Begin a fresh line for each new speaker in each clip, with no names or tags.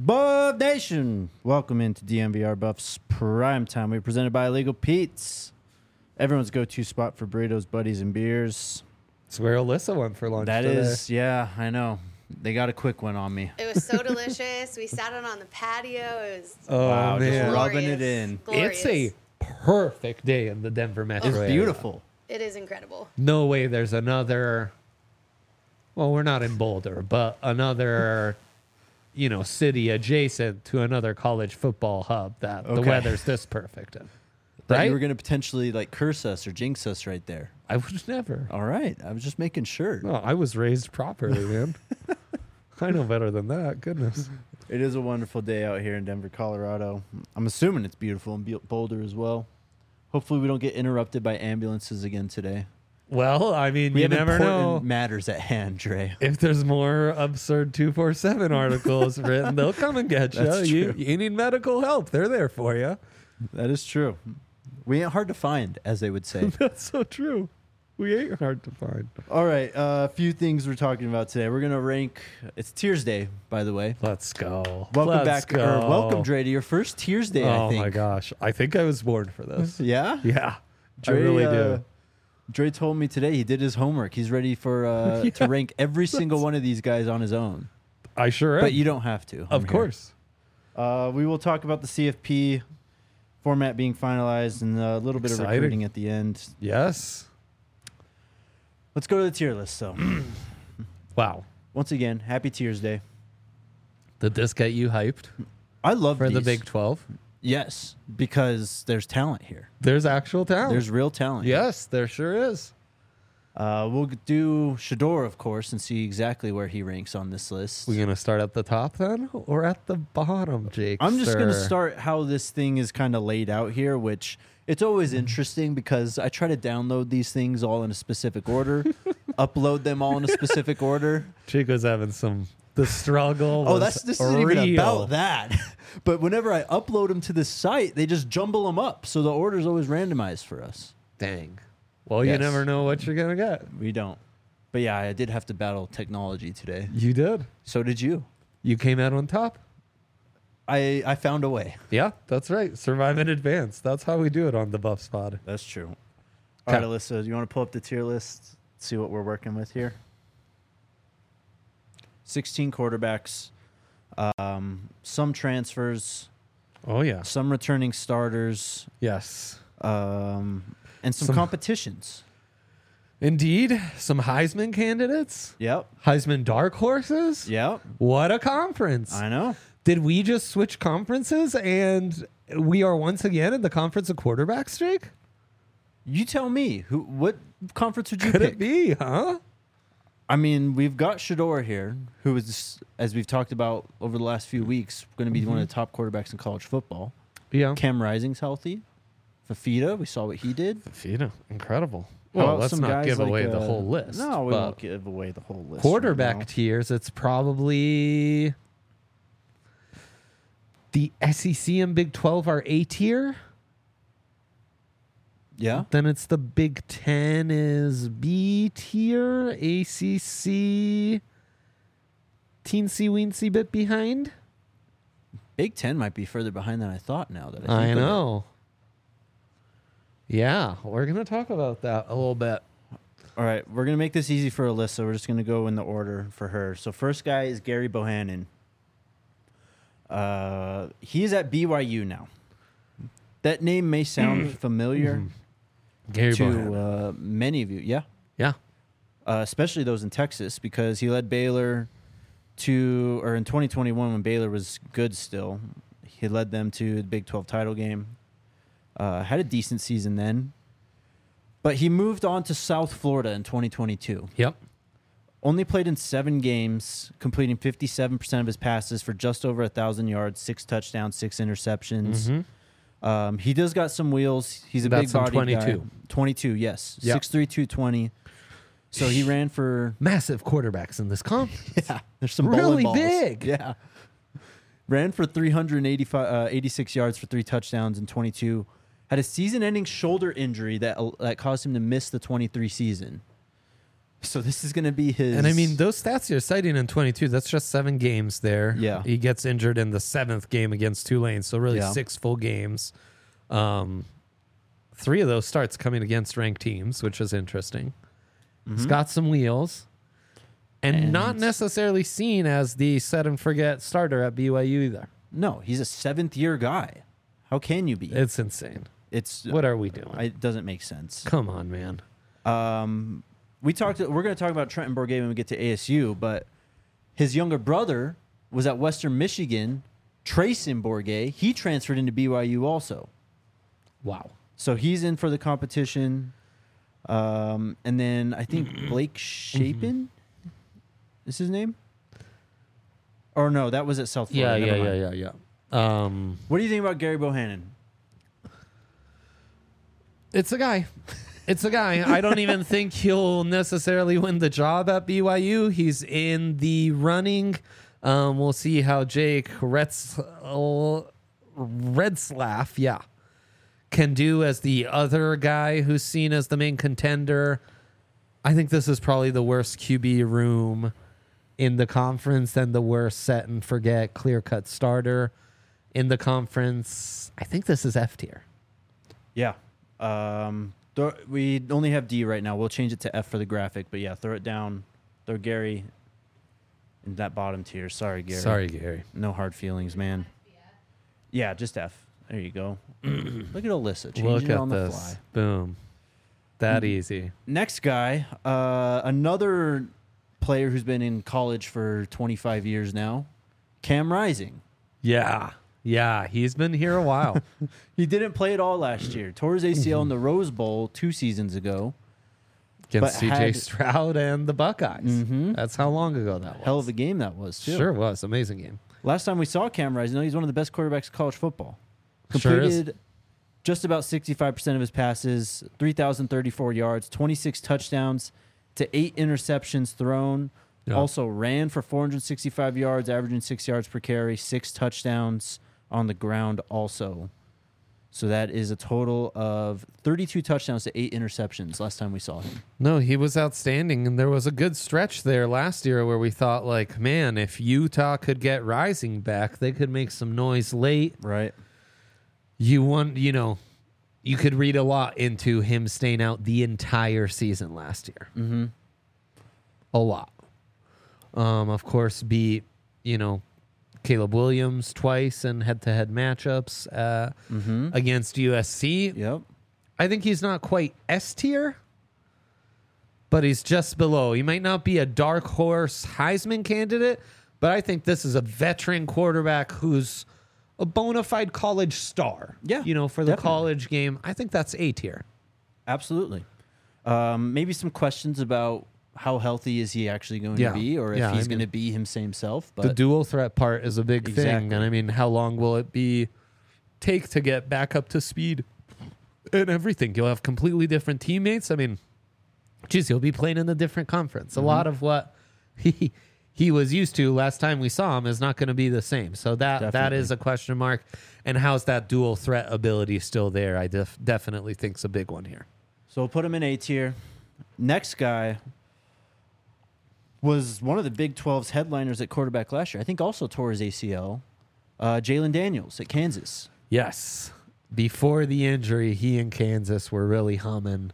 Buff Nation, welcome into DMVR Buffs Prime Time. We're presented by Illegal Pete's, everyone's go-to spot for burritos, buddies, and beers.
It's where Alyssa went for lunch
That
today.
is, yeah, I know. They got a quick one on me.
It was so delicious. We sat on the patio. It was
Wow, just
man.
rubbing it in.
glorious.
It's a perfect day in the Denver metro
It's
area.
beautiful.
It is incredible.
No way there's another, well, we're not in Boulder, but another, city adjacent to another college football hub that the
Okay.
weather's this perfect in.
Thought
Right?
you were going to potentially curse us or jinx us right there.
I would never.
All right, I was just making sure.
No, I was raised properly, man. I know better than that. Goodness.
It is a wonderful day out here in Denver, Colorado. I'm assuming it's beautiful in Boulder as well. Hopefully we don't get interrupted by ambulances again today.
Well, I mean,
We
you
have
never
important
know.
matters at hand, Dre.
If there's more absurd 247 articles written, they'll come and get you.
That's true.
You need medical help. They're there for you.
That is true. We ain't hard to find, as they would say.
That's so true. We ain't hard to find.
All right, a few things we're talking about today. We're gonna rank. It's Tears Day, by the way.
Let's go.
Welcome
Let's
back,
go.
or welcome, Dre, to your first Tears Day. I
Oh
think.
my gosh. I think I was born for this.
Yeah,
Yeah.
Dre,
I really do.
Dre told me today he did his homework. He's ready for to rank every single one of these guys on his own.
I sure am.
But you don't have to. I'm
of
here.
course.
We will talk about the CFP format being finalized and a little bit of
Exciting.
recruiting at the end.
Yes.
Let's go to the tier list. So,
Wow.
once again, happy Tears Day.
Did this get you hyped
I love
for the
these.
Big 12?
Yes, because there's talent here.
There's actual talent.
There's real talent.
Yes, there sure is.
We'll do Shador, of course, and see exactly where he ranks on this list.
We gonna start at the top then, or at the bottom, Jake?
I'm just going to start how this thing is kind of laid out here, which it's always interesting because I try to download these things all in a specific order, upload them all in a specific order.
Chico's having the struggle.
Oh,
was
this isn't even
real.
about that. But whenever I upload them to the site, they just jumble them up. So the order's always randomized for us.
Dang. Well,
Yes.
you never know what you're gonna get.
We don't. But yeah, I did have to battle technology today.
You did.
So did you.
You came out on top.
I found a way.
Yeah, that's right. Survive in advance. That's how we do it on the Buff Spot.
That's true. All right,
Okay.
Alyssa, do you want to pull up the tier list? See what we're working with here. 16 quarterbacks, some transfers,
Oh yeah.
some returning starters,
Yes.
and some
Some-
competitions.
Indeed, some Heisman candidates,
Yep.
Heisman dark horses.
Yep.
What a conference!
I know.
Did we just switch conferences and we are once again in the conference of quarterbacks, Jake?
You tell me. What conference would you
Could
pick?
it be, huh?
I mean, we've got Shador here, who is, as we've talked about over the last few weeks, going to be one of the top quarterbacks in college football.
Yeah.
Cam Rising's healthy. Fafita, we saw what he did.
Fafita, incredible.
How
Well,
about
let's
some
not
guys
give
like,
away the whole list.
No, we
but
won't give away the whole list.
quarterback
right now.
tiers, it's probably the SEC and Big 12 are A tier.
Yeah.
Then it's the Big 10 is B tier. ACC, teensy weensy bit behind.
Big Ten might be further behind than I thought now. That I, think
I
of it.
know. Yeah, we're going to talk about that a little bit.
All right, we're going to make this easy for Alyssa. We're just going to go in the order for her. So first guy is Gary Bohannon. He is at BYU now. That name may sound familiar
Gary
to
Bohannon.
many of you. Yeah.
Yeah.
Especially those in Texas, because he led Baylor in 2021 when Baylor was good still, he led them to the Big 12 title game. Had a decent season then. But he moved on to South Florida in 2022.
Yep.
Only played in 7 games, completing 57% of his passes for just over 1,000 yards, 6 touchdowns, 6 interceptions.
Mm-hmm.
He does got some wheels. He's a
That's
big body
in
guy.
22.
22, yes.
Yep.
6'3", 220. So he ran for...
Massive quarterbacks in this conference.
Yeah, there's some
Really
bowling balls.
big.
Yeah. Ran for 86 yards for 3 touchdowns in 22. Had a season-ending shoulder injury that caused him to miss the 23 season. So this is going to be his.
And I mean, those stats you're citing in 22, that's just 7 games there.
Yeah.
He gets injured in the 7th game against Tulane. So really
Yeah.
6 full games. 3 of those starts coming against ranked teams, which is interesting. He's got some wheels. And not necessarily seen as the set and forget starter at BYU either.
No, he's a 7th-year guy. How can you be?
It's insane.
It's
What are we doing?
It doesn't make sense.
Come on, man.
We're going to talk about Trenton Bourget when we get to ASU, but his younger brother was at Western Michigan, Trayson Bourget. He transferred into BYU also.
Wow.
So he's in for the competition. And then I think Blake Shapen is his name? Or no, that was at South Florida. Never mind.
yeah.
What do you think about Gary Bohannon?
It's a guy. It's a guy. I don't even think he'll necessarily win the job at BYU. He's in the running. We'll see how Jake Retzlaff, can do as the other guy who's seen as the main contender. I think this is probably the worst QB room in the conference and the worst set and forget clear-cut starter in the conference. I think this is F tier.
Yeah. We only have D right now. We'll change it to F for the graphic, but yeah, throw it down. Throw Gary in that bottom tier. Sorry, Gary.
Sorry, Gary.
No hard feelings, man. Yeah, just F. There you go. Look at Alyssa changing
Look
it
at
on the
this.
fly.
Boom. That easy.
Next guy, another player who's been in college for 25 years now, Cam Rising.
Yeah. Yeah. He's been here a while.
He didn't play at all last year. Tore his ACL in the Rose Bowl 2 seasons ago.
Against
But
CJ
had-
Stroud and the Buckeyes.
Mhm.
That's how long ago that was.
Hell of a game that was, too.
Sure was. Amazing game.
Last time we saw Cam Rising, he's one of the best quarterbacks in college football.
Sure is.
Completed just about 65% of his passes, 3,034 yards, 26 touchdowns to 8 interceptions thrown.
Yeah.
Also ran for 465 yards, averaging 6 yards per carry, 6 touchdowns on the ground also. So that is a total of 32 touchdowns to 8 interceptions last time we saw him.
No, he was outstanding. And there was a good stretch there last year where we thought, like, man, if Utah could get Rising back, they could make some noise late.
Right.
You could read a lot into him staying out the entire season last year.
Mm-hmm.
A lot. Of course, beat, Caleb Williams twice in head-to-head matchups against USC.
Yep.
I think he's not quite S tier, but he's just below. He might not be a dark horse Heisman candidate, but I think this is a veteran quarterback who's a bona fide college star.
Yeah,
for the
definitely.
college game. I think that's A tier.
Absolutely. Maybe some questions about how healthy is he actually going
Yeah.
to be, or if
Yeah,
he's
I
going to
mean,
be him same self. But
The dual threat part is a big thing.
Exactly.
And I mean, how long will it take to get back up to speed and everything? You'll have completely different teammates. I mean, geez, he'll be playing in a different conference. A lot of what he was used to last time we saw him is not going to be the same. So that
Definitely.
is a question mark. And how's that dual threat ability still there? I definitely think is a big one here.
So we'll put him in A tier. Next guy was one of the Big 12's headliners at quarterback last year. I think also tore his ACL. Jalen Daniels at Kansas.
Yes. Before the injury, he and Kansas were really humming.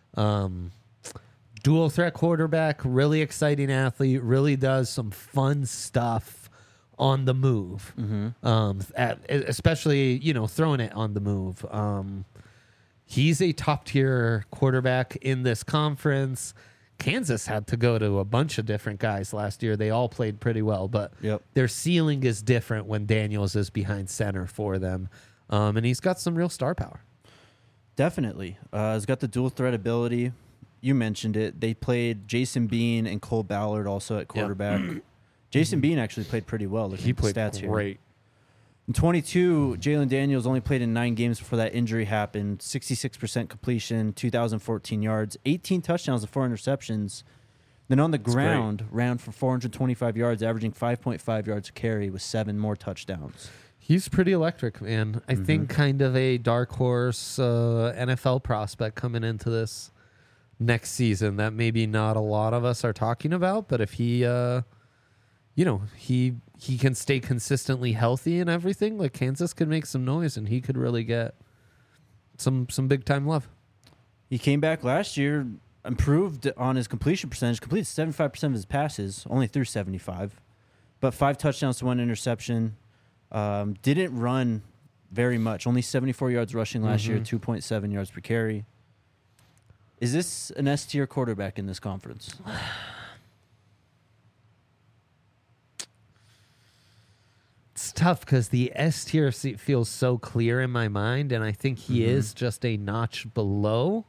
Dual threat quarterback, really exciting athlete, really does some fun stuff on the move. Especially, throwing it on the move. He's a top tier quarterback in this conference. Kansas had to go to a bunch of different guys last year. They all played pretty well, but
Yep.
their ceiling is different when Daniels is behind center for them. And he's got some real star power.
Definitely. He's got the dual threat ability. You mentioned it. They played Jason Bean and Cole Ballard also at quarterback. Jason Bean actually played pretty well. Looking
He
at the
played
stats here.
great.
In 22, Jalen Daniels only played in 9 games before that injury happened. 66% completion, 2,014 yards, 18 touchdowns and 4 interceptions. Then on the ground, ran for 425 yards, averaging 5.5 yards a carry with 7 more touchdowns.
He's pretty electric, man. I think kind of a dark horse NFL prospect coming into this next season that maybe not a lot of us are talking about. But if he, he can stay consistently healthy and everything, like Kansas could make some noise and he could really get some big time love.
He came back last year, improved on his completion percentage, completed 75% of his passes, only threw 75, but 5 touchdowns to 1 interception. Didn't run very much, only 74 yards rushing last year, 2.7 yards per carry. Is this an S-tier quarterback in this conference?
It's tough because the S tier feels so clear in my mind, and I think he is just a notch below.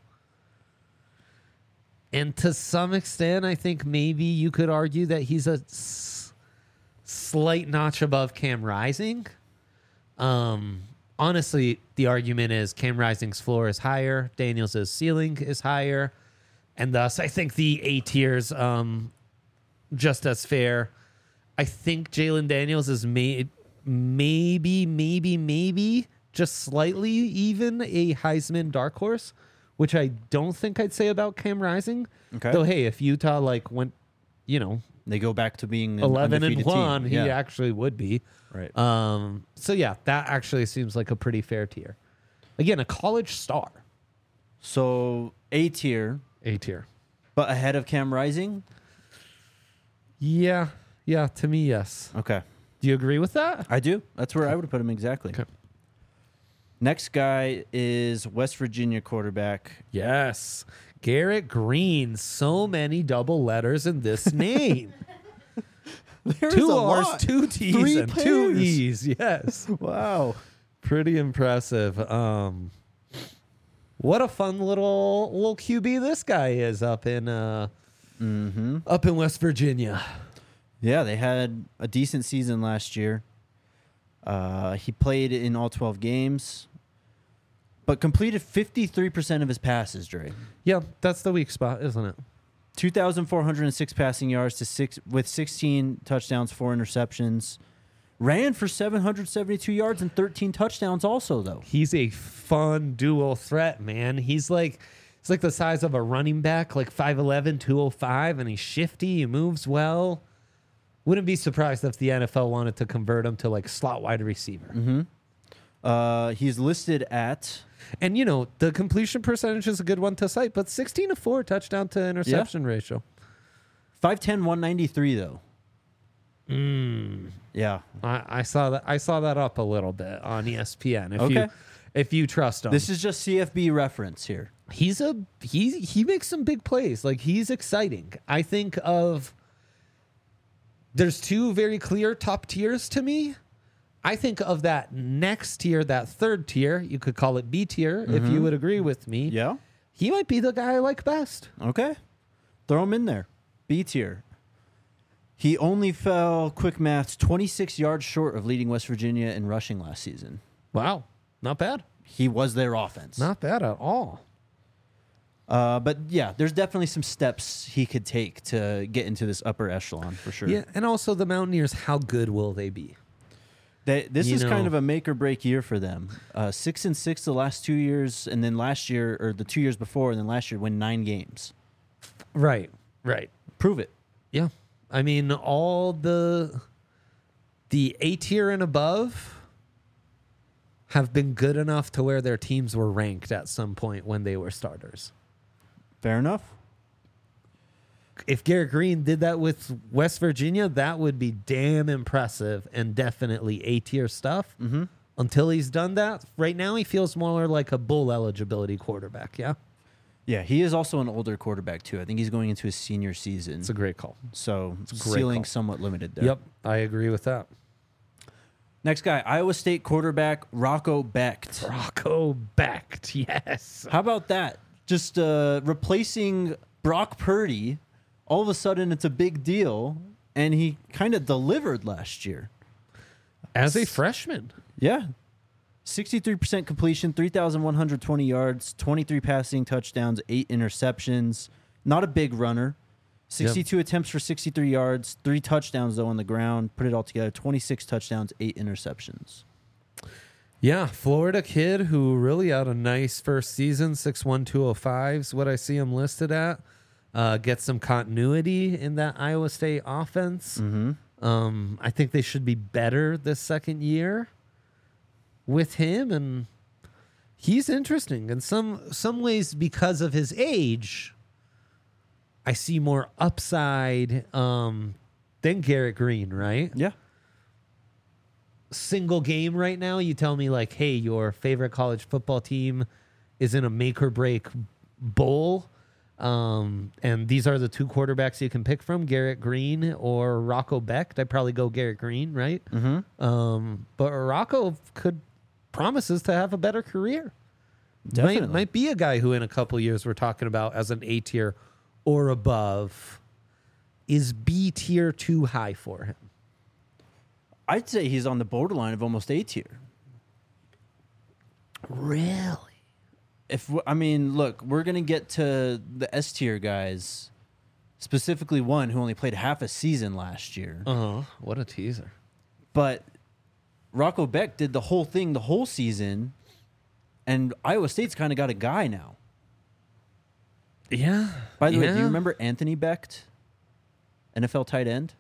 And to some extent, I think maybe you could argue that he's a slight notch above Cam Rising. Honestly, the argument is Cam Rising's floor is higher, Daniels' ceiling is higher, and thus I think the A tier's just as fair. I think Jalen Daniels is maybe just slightly even a Heisman dark horse, which I don't think I'd say about Cam Rising.
Okay.
Though, hey, if Utah went,
They go back to being an
11-1, he
team.
actually would be.
Right.
So yeah, that actually seems like a pretty fair tier. Again, a college star.
So A tier,
A tier.
but ahead of Cam Rising?
Yeah, to me, yes.
Okay.
Do you agree with that?
I do. That's where I would have put him exactly.
Okay.
Next guy is West Virginia quarterback.
Yes. Garrett Green. So many double letters in this name.
There's
2
a
R's,
lot.
2 T's,
3
and 2
pairs.
E's. Yes.
Wow.
Pretty impressive. What a fun little QB this guy is up in West Virginia.
Yeah, they had a decent season last year. He played in all 12 games, but completed 53% of his passes, Dre.
Yeah, that's the weak spot, isn't it?
2,406 passing yards with 16 touchdowns, 4 interceptions. Ran for 772 yards and 13 touchdowns also, though.
He's a fun dual threat, man. He's like the size of a running back, like 5'11", 205, and he's shifty, he moves well. Wouldn't be surprised if the NFL wanted to convert him to like slot wide receiver.
He's listed at...
And, the completion percentage is a good one to cite, but 16-4 touchdown to interception ratio.
5'10", 193, though. Yeah.
I saw that up a little bit on ESPN. If you trust him.
This is just CFB reference here.
He makes some big plays. Like, he's exciting. I think there's 2 very clear top tiers to me. I think of that next tier, that third tier, you could call it B tier, if you would agree with me.
Yeah.
He might be the guy I like best.
Okay. Throw him in there. B tier. He only fell, quick maths, 26 yards short of leading West Virginia in rushing last season.
Wow. Not bad.
He was their offense.
Not bad at all.
But yeah, there's definitely some steps he could take to get into this upper echelon for sure.
Yeah, and also the Mountaineers, how good will they be?
This is kind of a make or break year for them. 6-6 the last 2 years, and then last year, or the 2 years before, and then last year win 9 games.
Right.
Prove it.
Yeah. I mean, all the A tier and above have been good enough to where their teams were ranked at some point when they were starters.
Fair enough.
If Garrett Green did that with West Virginia, that would be damn impressive and definitely A tier stuff. Until he's done that, right now he feels more like a bowl eligibility quarterback. Yeah.
Yeah, he is also an older quarterback too. I think he's going into his senior season.
It's a great call.
So
a great
ceiling
call.
somewhat limited there.
Yep. I agree with that.
Next guy, Iowa State quarterback Rocco Becht.
Rocco Becht. Yes.
How about that? Just replacing Brock Purdy. All of a sudden, it's a big deal, and he kind of delivered last year.
As a freshman.
Yeah. 63% completion, 3,120 yards, 23 passing touchdowns, 8 interceptions. Not a big runner. 62 attempts for 63 yards, 3 touchdowns, though, on the ground. Put it all together, 26 touchdowns, 8 interceptions.
Yeah, Florida kid who really had a nice first season, 6'1", 205 is what I see him listed at. Get some continuity in that Iowa State offense. I think they should be better this second year with him, and he's interesting in some ways because of his age. I see more upside than Garrett Green, right?
Yeah.
Single game right now, you tell me like, hey, your favorite college football team is in a make or break bowl. And these are the two quarterbacks you can pick from, Garrett Green or Rocco Becht. I'd probably go Garrett Green, right? But Rocco promises to have a better career.
Definitely.
Might be a guy who in a couple years we're talking about as an A tier or above. Is B tier too high for him?
I'd say he's on the borderline of almost A tier.
Really?
Look, we're going to get to the S tier guys, specifically one who only played half a season last year.
What a teaser.
But Rocco Becht did the whole thing the whole season, and Iowa State's kind of got a guy now.
Yeah.
By the way, do you remember Anthony Becht, NFL tight end?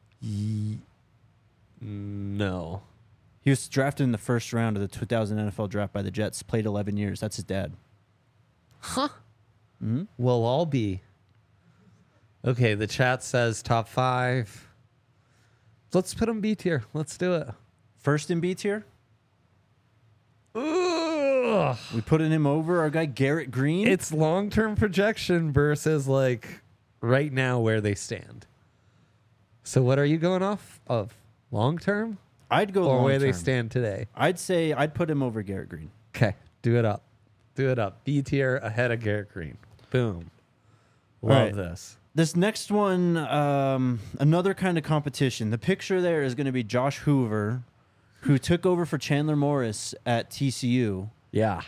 No.
He was drafted in the first round of the 2000 NFL draft by the Jets, played 11 years. That's his dad.
Huh? We'll all be. Okay, the chat says top 5. Let's put him B tier. Let's do it.
First in B tier?
Ugh.
We putting him over our guy Garrett Green?
It's long-term projection versus like right now where they stand. So what are you going off of? Long-term?
I'd go
Or
long
where they
term.
stand today?
I'd say I'd put him over Garrett Green.
Okay, do it up. Do it up. B tier ahead of Garrett Green. Boom.
All
Love
right.
this.
This next one, another kind of competition. The picture there is going to be Josh Hoover, who took over for Chandler Morris at TCU.
Yeah.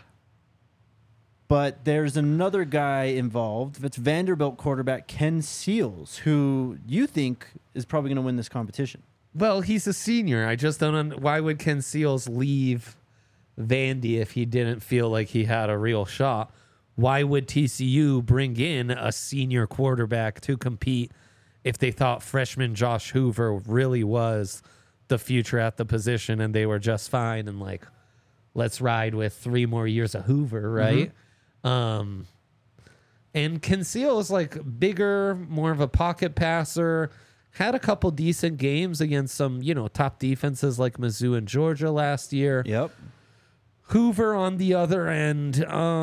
But there's another guy involved. It's Vanderbilt quarterback Ken Seals, who you think is probably going to win this competition.
Well, he's a senior. I just don't. Why would Ken Seals leave Vandy if he didn't feel like he had a real shot? Why would TCU bring in a senior quarterback to compete if they thought freshman Josh Hoover really was the future at the position and they were just fine and like, let's ride with 3 more years of Hoover, right? And Ken Seals, like bigger, more of a pocket passer. Had a couple decent games against some, top defenses like Mizzou and Georgia last year.
Yep.
Hoover on the other end,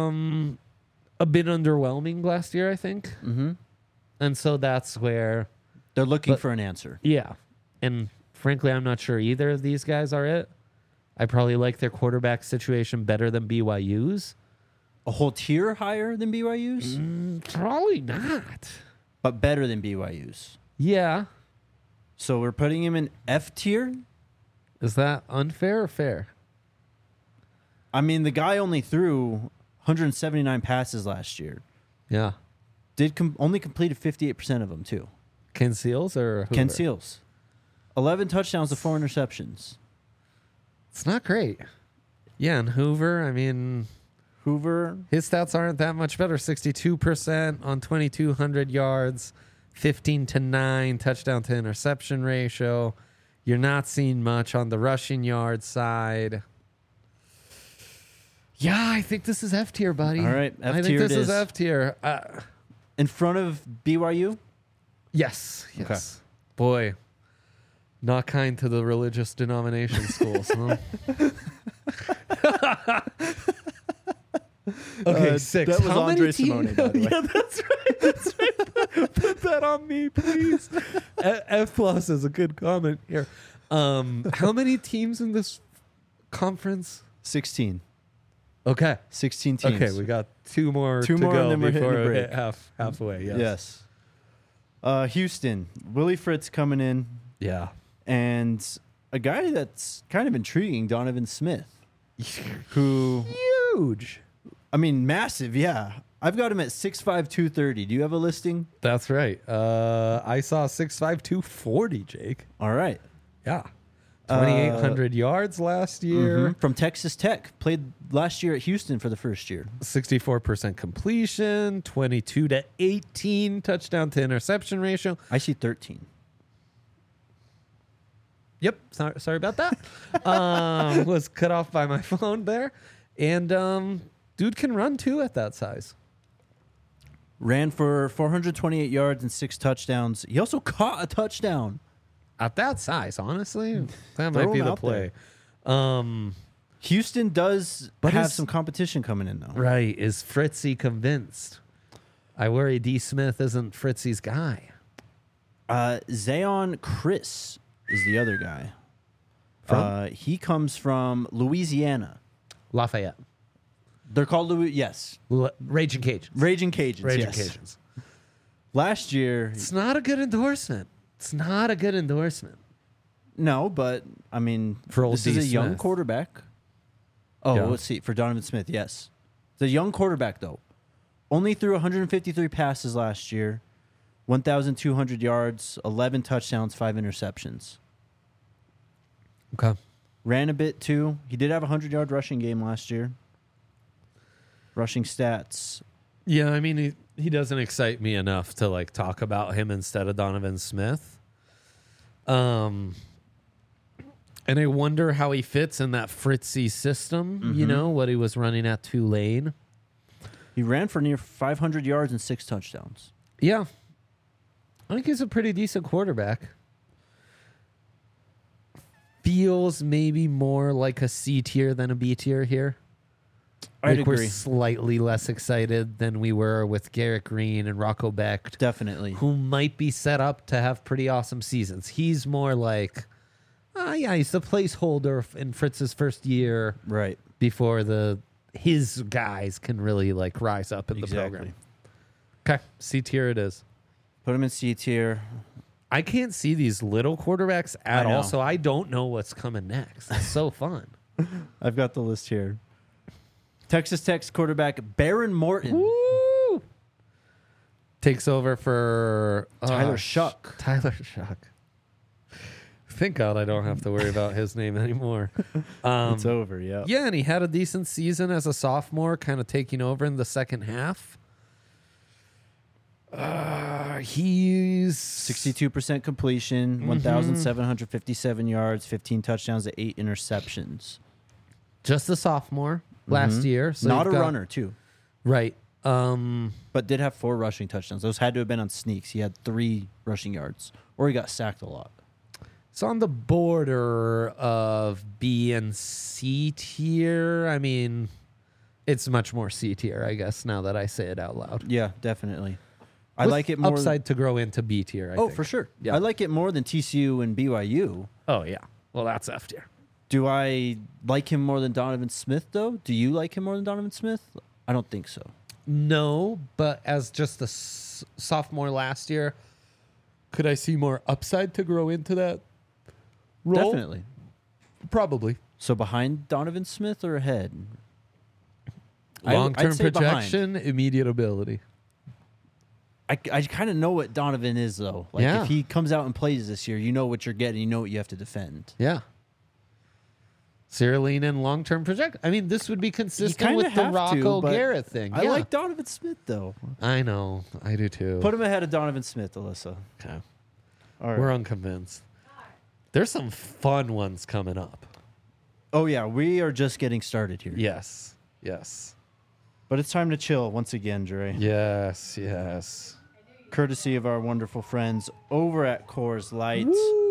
a bit underwhelming last year, I think. And so that's where,
They're looking for an answer.
yeah. And frankly, I'm not sure either of these guys are it. I probably like their quarterback situation better than BYU's.
A whole tier higher than BYU's,
Probably not.
but better than BYU's.
Yeah.
So we're putting him in F tier.
Is that unfair or fair?
I mean, the guy only threw 179 passes last year.
Yeah.
Only completed 58% of them, too.
Ken Seals or Hoover?
Ken Seals. 11 touchdowns to 4 interceptions.
It's not great. Yeah, and Hoover, I mean,
Hoover,
his stats aren't that much better. 62% on 2,200 yards, 15-9 touchdown to interception ratio. You're not seeing much on the rushing yard side. Yeah, I think this is F tier, buddy.
All right, F
I think
tier
this
it
is
is.
F tier.
in front of BYU.
Yes. Boy, not kind to the religious denomination schools, huh? Okay, 6.
That was
How many
Andre
teams-
Simone, by the way.
Yeah, that's right. That's right. Put that on me, please. F plus is a good comment here. How many teams in this conference?
16.
Okay.
16 teams.
Okay, we got 2 more
Two
to
more,
go
and then we're hitting
before
the
we hit
break.
halfway. Yes.
Yes. Hustein. Willie Fritz coming in.
Yeah.
And a guy that's kind of intriguing, Donovan Smith, who,
Huge.
I mean, massive, yeah. I've got him at 6'5", 230. Do you have a listing?
That's right. I saw 6'5", 240, Jake.
All right.
Yeah. 2,800 yards last year.
From Texas Tech. Played last year at Houston for the first year.
64% completion, 22 to 18 touchdown to interception ratio.
I see 13.
Yep, sorry about that. Was cut off by my phone there. And dude can run too at that size.
Ran for 428 yards and 6 touchdowns. He also caught a touchdown.
At that size, honestly, that
Throw
might be
him
the
out
play.
Houston does
But
have
is-
some competition coming in, though.
Right. Is Fritzy convinced? I worry D. Smith isn't Fritzy's guy.
Zayon Chris is the other guy. He comes from Louisiana.
Lafayette.
They're called yes,
Raging Cajuns.
Raging Cajuns.
Raging
yes.
Cajuns.
Last year,
It's not a good endorsement. It's not a good endorsement.
no, but I mean,
For old
this is
D.
a young
Smith.
quarterback. Oh,
Yeah.
let's see. For Donovan Smith, yes, it's a young quarterback though. Only threw 153 passes last year, 1,200 yards, 11 touchdowns, 5 interceptions.
Okay.
Ran a bit too. He did have a 100-yard rushing game last year. Rushing stats.
Yeah, I mean, he doesn't excite me enough to like talk about him instead of Donovan Smith. And I wonder how he fits in that Fritzy system, you know, what he was running at Tulane.
He ran for near 500 yards and 6 touchdowns.
Yeah. I think he's a pretty decent quarterback. Feels maybe more like a C tier than a B tier here.
I'd
Like we're
agree.
slightly less excited than we were with Garrett Green and Rocco Becht,
Definitely.
who might be set up to have pretty awesome seasons. He's more like, yeah, he's the placeholder in Fritz's first year
Right.
before his guys can really like rise up in the program. Okay, C tier it is.
Put him in C tier.
I can't see these little quarterbacks at
I know.
all, so I don't know what's coming next. It's so fun.
I've got the list here. Texas Tech's quarterback Baron Morton.
Woo! Takes over for
Tyler Shuck.
Tyler Shuck. Thank God I don't have to worry about his name anymore.
It's over, yeah.
Yeah, and he had a decent season as a sophomore, kind of taking over in the second half. He's
62% completion, 1,757 yards, 15 touchdowns, to 8 interceptions.
just a sophomore last year. So
Not a
you've got-
runner, too,
Right.
but did have 4 rushing touchdowns. Those had to have been on sneaks. He had 3 rushing yards, or he got sacked a lot.
It's on the border of B and C tier. I mean, it's much more C tier, I guess, now that I say it out loud.
Yeah, definitely. I
With
like it more.
upside to grow into B tier, I
Oh,
think.
for sure.
Yeah.
I like it more than TCU and BYU.
Oh, yeah. Well, that's F tier.
Do I like him more than Donovan Smith, though? Do you like him more than Donovan Smith? I don't think so.
No, but as just a sophomore last year, could I see more upside to grow into that role?
Definitely.
Probably.
So behind Donovan Smith or ahead? I'd
Long-term
say behind.
projection, immediate ability.
I kind of know what Donovan is, though. Like,
Yeah.
if he comes out and plays this year, you know what you're getting. You know what you have to defend.
Yeah. Cyrilline and long-term project. I mean, this would be consistent
kinda
with the
have to,
Rocco
but
Garrett thing.
I
Yeah.
like Donovan Smith, though.
I know. I do too.
Put him ahead of Donovan Smith, Alyssa.
Okay.
All right.
We're unconvinced. There's some fun ones coming up.
Oh, yeah. We are just getting started here.
Yes. Yes.
But it's time to chill once again, Dre.
Yes. Yes.
Courtesy of our wonderful friends over at Coors Light.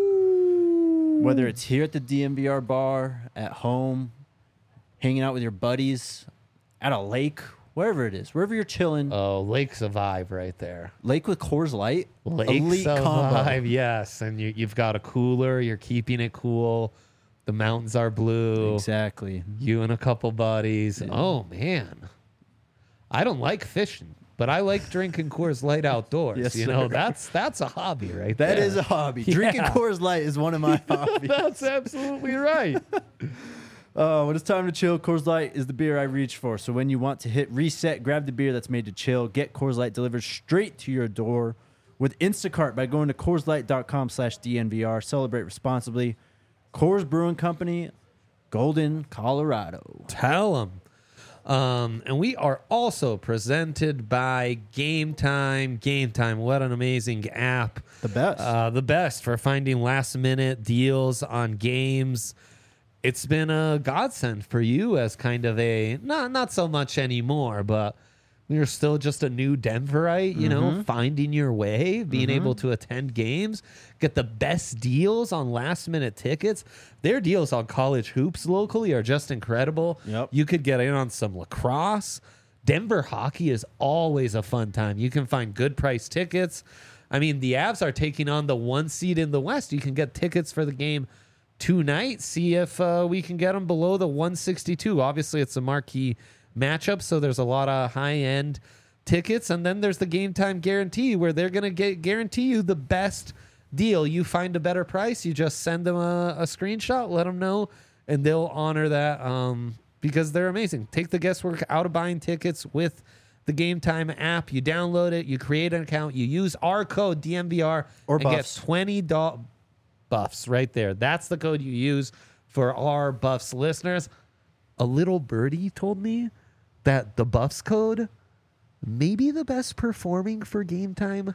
Whether it's here at the DMVR bar, at home, hanging out with your buddies, at a lake, wherever it is, wherever you're chilling.
Oh, Lake's a vibe right there.
Lake with Coors Light,
Lake's
elite
a
combo.
vibe, yes. And you've got a cooler. You're keeping it cool. The mountains are blue.
Exactly.
You and a couple buddies. Oh, man. I don't like fishing, but I like drinking Coors Light outdoors.
Yes,
you know,
sir.
that's a hobby right
That
there.
is a hobby.
Yeah.
Drinking Coors Light is one of my hobbies.
That's absolutely right.
When it's time to chill, Coors Light is the beer I reach for. So when you want to hit reset, grab the beer that's made to chill. Get Coors Light delivered straight to your door with Instacart by going to CoorsLight.com/DNVR. Celebrate responsibly. Coors Brewing Company, Golden, Colorado.
Tell them. And we are also presented by Game Time. Game Time, what an amazing app.
The best.
The best for finding last-minute deals on games. It's been a godsend for you as kind of a, not so much anymore, but you're still just a new Denverite, you know, finding your way, being able to attend games, get the best deals on last-minute tickets. Their deals on college hoops locally are just incredible.
Yep.
You could get in on some lacrosse. Denver hockey is always a fun time. You can find good price tickets. I mean, the Avs are taking on the 1 seed in the West. You can get tickets for the game tonight. See if we can get them below the 162. Obviously, it's a marquee matchup, so there's a lot of high-end tickets. And then there's the Game Time guarantee, where they're going to guarantee you the best deal. You find a better price, you just send them a screenshot, let them know, and they'll honor that because they're amazing. Take the guesswork out of buying tickets with the Game Time app. You download it, you create an account, you use our code DMVR
Or
and
Buffs.
get $20 Buffs right there. That's the code you use for our Buffs listeners. A little birdie told me that the Buffs code may be the best performing for Game Time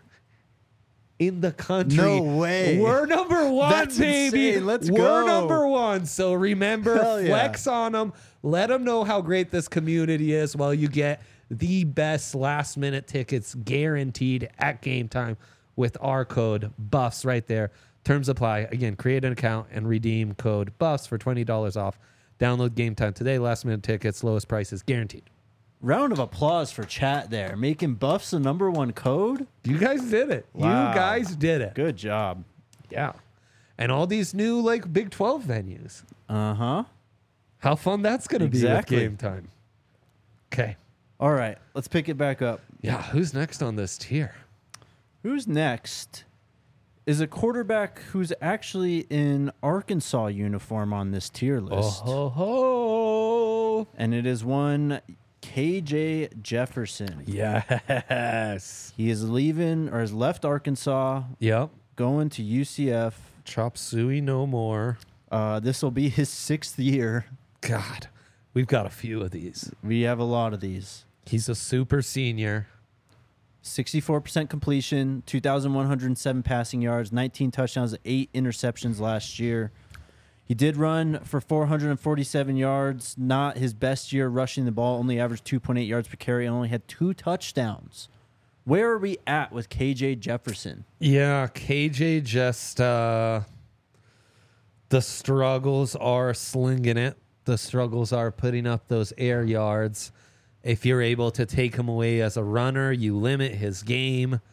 in the country.
No way.
We're number one,
That's
baby.
insane. Let's
We're
go.
number one. So remember,
Hell yeah.
flex on them. Let them know how great this community is while you get the best last minute tickets guaranteed at Game Time with our code Buffs right there. Terms apply. Again, create an account and redeem code Buffs for $20 off. Download Game Time today. Last minute tickets, lowest prices guaranteed.
Round of applause for chat there. Making Buffs the number one code.
You guys did it.
Wow.
You guys did it.
Good job.
Yeah. And all these new like Big 12 venues.
Uh-huh.
How fun that's going to
Exactly.
be with Game Time. Okay.
All right, let's pick it back up.
Yeah. Who's next on this tier?
Who's next is a quarterback who's actually in Arkansas uniform on this tier list.
Oh, ho, ho.
And it is one KJ Jefferson.
Yes.
He is leaving or has left Arkansas,
Yep.
going to UCF.
Chop suey no more.
This will be his 6th year.
God. We've got a few of these.
We have a lot of these.
He's a super senior.
64% completion, 2,107 passing yards, 19 touchdowns, 8 interceptions last year. He did run for 447 yards, not his best year rushing the ball, only averaged 2.8 yards per carry, and only had 2 touchdowns. Where are we at with KJ Jefferson?
Yeah, KJ just the struggles are slinging it. The struggles are putting up those air yards. If you're able to take him away as a runner, you limit his game.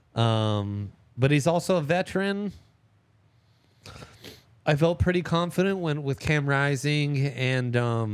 But he's also a veteran. I felt pretty confident when with Cam Rising and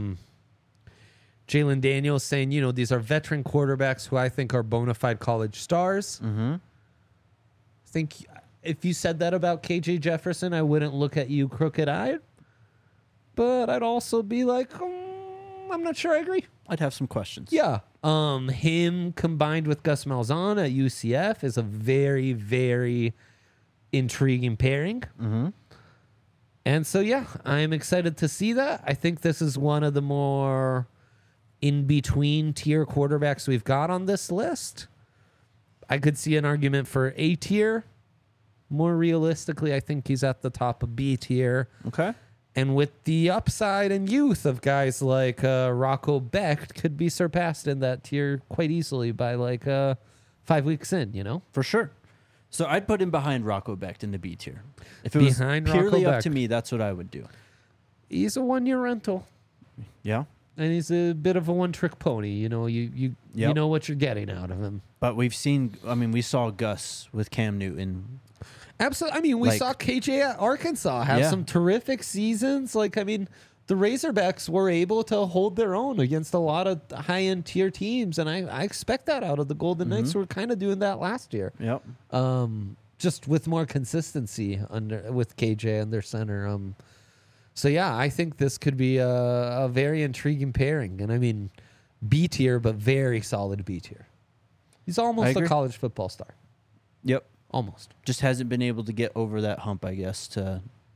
Jalen Daniels saying, you know, these are veteran quarterbacks who I think are bona fide college stars.
Mm-hmm.
I think if you said that about KJ Jefferson, I wouldn't look at you crooked-eyed. But I'd also be like, I'm not sure I agree.
I'd have some questions.
Yeah. Him combined with Gus Malzahn at UCF is a very, very intriguing pairing.
Mm-hmm.
And so, yeah, I'm excited to see that. I think this is one of the more in-between tier quarterbacks we've got on this list. I could see an argument for A tier. More realistically, I think he's at the top of B tier.
Okay.
And with the upside and youth of guys like Rocco Becht, could be surpassed in that tier quite easily by like 5 weeks in, you know?
For sure. So I'd put him behind Rocco Becht in the B tier. If it
Behind
was purely
Rocco
up to
Becht.
me, that's what I would do.
He's a 1 year rental.
Yeah.
And he's a bit of a one-trick pony. You know, you
Yep.
know what you're getting out of him.
But we saw Gus with Cam Newton.
Absolutely. I mean, we
Like-
saw KJ at Arkansas have
Yeah.
some terrific seasons. Like, I mean, the Razorbacks were able to hold their own against a lot of high-end tier teams, and I expect that out of the Golden Knights, who were kind of doing that last year.
Yep.
Just with more consistency with KJ and their center. So yeah, I think this could be a very intriguing pairing, and I mean, B tier, but very solid B tier. He's
I
almost a
agree.
college football star,
Yep.
almost.
Just hasn't been able to get over that hump, I guess, to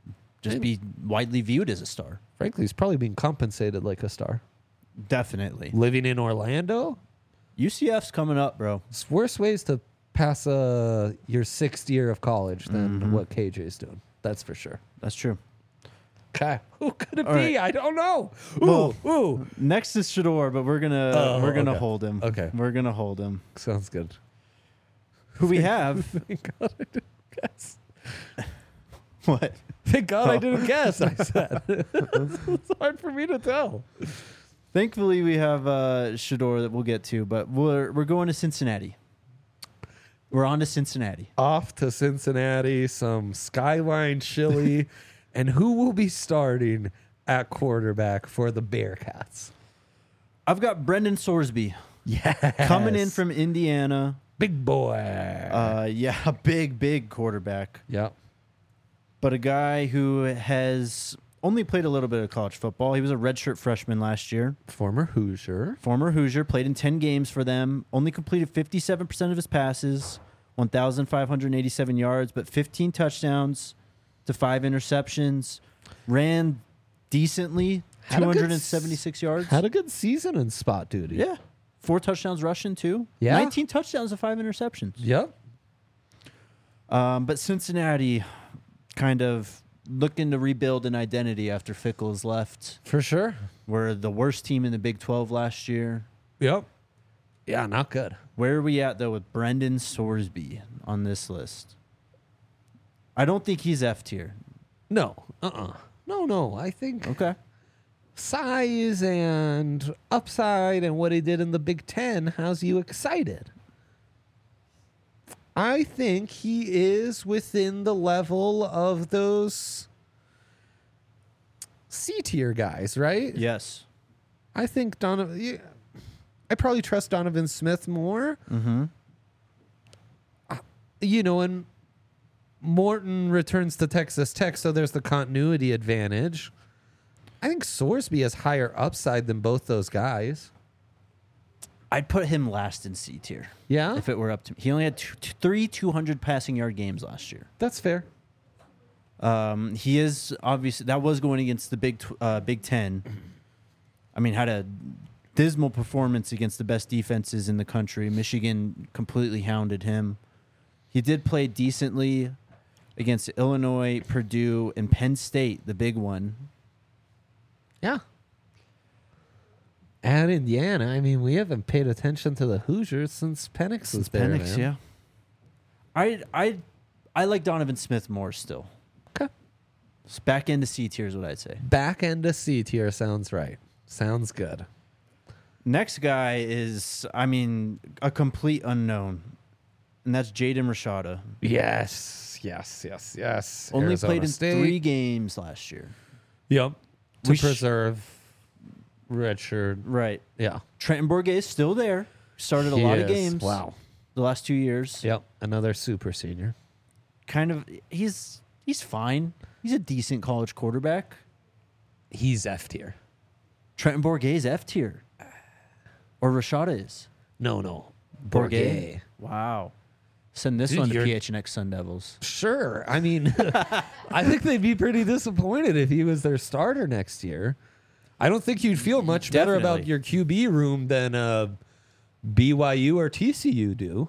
just be widely viewed as a star.
Frankly, he's probably being compensated like a star.
Definitely.
Living in Orlando,
UCF's coming up, bro.
it's worse ways to pass your sixth year of college than what KJ's doing. That's for sure.
That's true.
Okay, who could it
All
be?
right.
I don't know.
Well,
Ooh,
Next is Shador, but we're gonna
okay.
hold him.
Okay.
We're gonna hold him.
sounds good.
Who we have?
Thank God I didn't guess.
What?
Thank God I didn't guess. I said it's hard for me to tell.
Thankfully, we have Shador that we'll get to, but we're going to Cincinnati. We're on to Cincinnati.
Off to Cincinnati, some Skyline chili, and who will be starting at quarterback for the Bearcats?
I've got Brendan Sorsby
Yeah,
coming in from Indiana.
big boy.
Yeah, a big quarterback,
Yep.
but a guy who has only played a little bit of college football. He was a redshirt freshman last year.
Former Hoosier.
Former Hoosier, played in 10 games for them, only completed 57% of his passes, 1,587 yards, but 15 touchdowns to 5 interceptions. Ran decently,
Had a good
276 yards.
Had a good season in spot duty.
Yeah. 4 touchdowns rushing, too.
Yeah.
19 touchdowns to 5 interceptions.
Yep.
But Cincinnati kind of looking to rebuild an identity after Fickle's left.
For sure.
We're the worst team in the Big 12 last year.
Yep. Yeah, not good.
Where are we at, though, with Brendan Sorsby on this list? I don't think he's F tier.
No. No. I think
Okay.
size and upside and what he did in the Big Ten has you excited. I think he is within the level of those C tier guys, right?
Yes.
I think Donovan. Yeah, I probably trust Donovan Smith more.
Mm-hmm.
And Morton returns to Texas Tech, so there's the continuity advantage. I think Sorsby has higher upside than both those guys.
I'd put him last in C tier
Yeah,
if it were up to me. He only had 3 200 passing yard games last year.
that's fair.
He is obviously that was going against the Big Ten. I mean, had a dismal performance against the best defenses in the country. Michigan completely hounded him. He did play decently against Illinois, Purdue, and Penn State, the big one.
Yeah. At Indiana, I mean, we haven't paid attention to the Hoosiers since Penix was there.
Penix,
man.
yeah. I like Donovan Smith more still.
Okay.
It's back into C tier is what I'd say.
Back end of C tier sounds right. Sounds good.
Next guy is, I mean, a complete unknown, and that's Jaden Rashada.
Yes.
Only
Arizona
played in
State.
3 games last year.
Yep. To
We sh-
preserve redshirt.
Right.
Yeah.
Trenton Bourget is still there. Started a
He
lot of
is.
games.
Wow.
The last 2 years.
Yep. Another super senior.
Kind of, he's fine. He's a decent college quarterback.
He's F tier.
Trenton Bourget is F tier. Or Rashada is.
No.
Bourget. Wow. Send this
Dude,
one to
you're-
PHNX Sun Devils.
Sure. I mean, I think they'd be pretty disappointed if he was their starter next year. I don't think you'd feel much better about
Definitely.
your QB room than BYU or TCU do.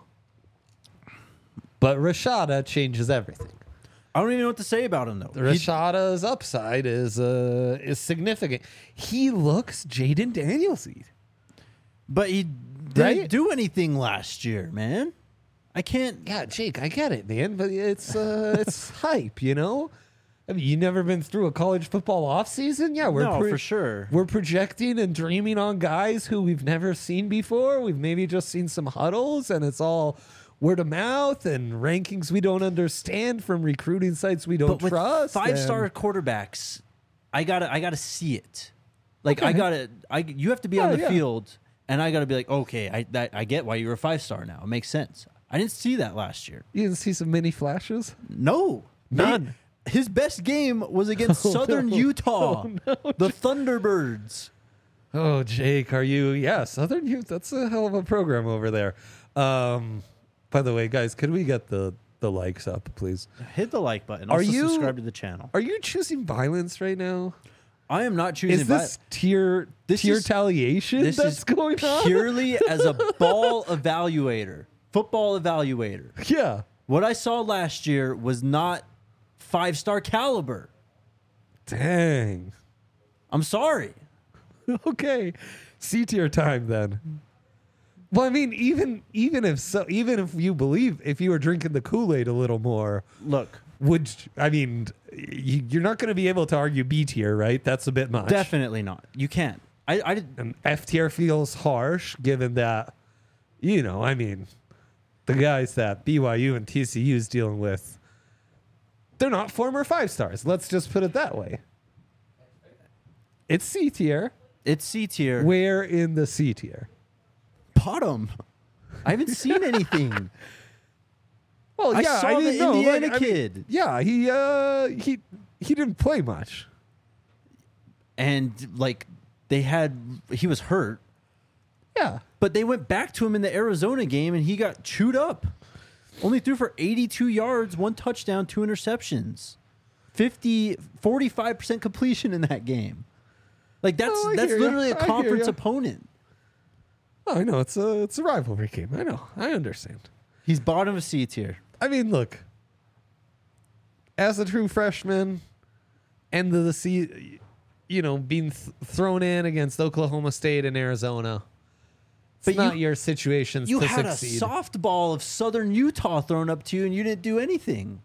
But Rashada changes everything.
I don't even know what to say about him, though.
Rashada's upside is significant. He looks Jaden Daniels-y.
But he didn't
Right?
do anything last year, man. I can't.
Yeah, Jake, I get it, man, but it's hype, you know? I mean, you never been through a college football offseason? Yeah,
No, for sure.
We're projecting and dreaming on guys who we've never seen before. We've maybe just seen some huddles, and it's all word of mouth and rankings we don't understand from recruiting sites we don't
But with
trust.
5-star
and-
quarterbacks, I gotta see it. Like
Okay.
you have to be on the
Yeah.
field, and I gotta be like, okay, I get why you're a 5-star now. It makes sense. I didn't see that last year.
You didn't see some mini flashes?
No,
None.
His best game was against Southern Utah, the Thunderbirds.
Oh, Jake, are you? Yeah, Southern Youth. That's a hell of a program over there. By the way, guys, could we get the the likes up, please.
Hit the like button.
Are
Also
you-
subscribe to the channel.
Are you choosing violence right now?
I am not choosing.
Is this tier
This is-
retaliation
this
that's
is
going on?
purely as a ball evaluator, football evaluator.
Yeah.
What I saw last year was not 5-star caliber.
Dang.
I'm sorry.
Okay. C tier time then. Well, I mean, even if you believe, if you were drinking the Kool-Aid a little more,
Look,
you're not going to be able to argue B tier, right? That's a bit much.
definitely not. You can't. I did.
And F tier feels harsh, given that, the guys that BYU and TCU is dealing with, they're not former 5 stars. Let's just put it that way. It's C tier.
It's C tier.
Where in the C tier?
Bottom. I haven't seen anything.
Well,
I saw the Indiana kid.
Yeah, he didn't play much.
And he was hurt,
Yeah.
but they went back to him in the Arizona game and he got chewed up. Only threw for 82 yards, 1 touchdown, 2 interceptions. 45% completion in that game. Like that's
Oh, I hear ya.
literally a
I hear
conference
ya.
opponent.
Oh, I know it's a rivalry game. I know. I understand.
He's bottom of C tier.
I mean, look. As a true freshman, end of the season, being thrown in against Oklahoma State and Arizona. It's
But
not
you-
your situations
You
to
had
succeed.
a softball of Southern Utah thrown up to you and you didn't do anything.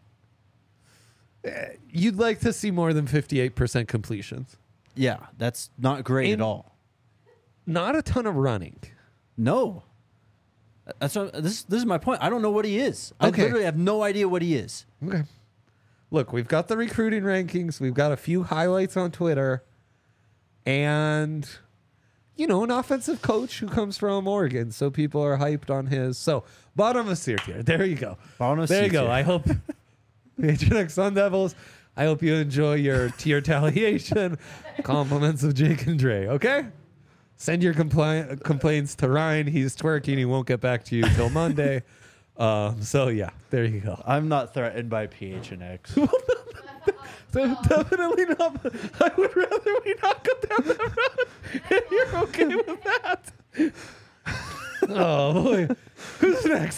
You'd like to see more than 58% completions.
Yeah, that's not great
In-
at all.
Not a ton of running.
No. That's what, this is my point. I don't know what he is. I
Okay.
literally have no idea what he is.
Okay. Look, we've got the recruiting rankings. We've got a few highlights on Twitter. And, an offensive coach who comes from Oregon. So people are hyped on his. So, bottom of C tier. There you go.
Bottom of
There
C
you go.
tier.
I hope, Patriotic Sun Devils, I hope you enjoy your tier retaliation. Compliments of Jake and Dre. Okay? Send your complaints to Ryan. He's twerking. He won't get back to you till Monday. So, yeah, there you go.
I'm not threatened by PHNX.
Definitely not. I would rather we not go down that road. If you're okay with that. Oh, boy. Who's next?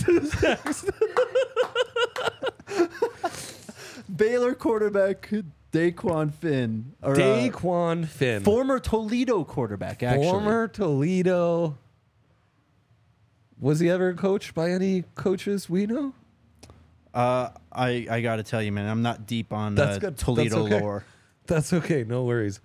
Baylor quarterback Daquan Finn. Or,
Daquan Finn.
former Toledo quarterback, actually.
Former Toledo. Was he ever coached by any coaches we know?
I got to tell you, man, I'm not deep on
That's good.
Toledo
That's okay.
lore.
That's okay. No worries.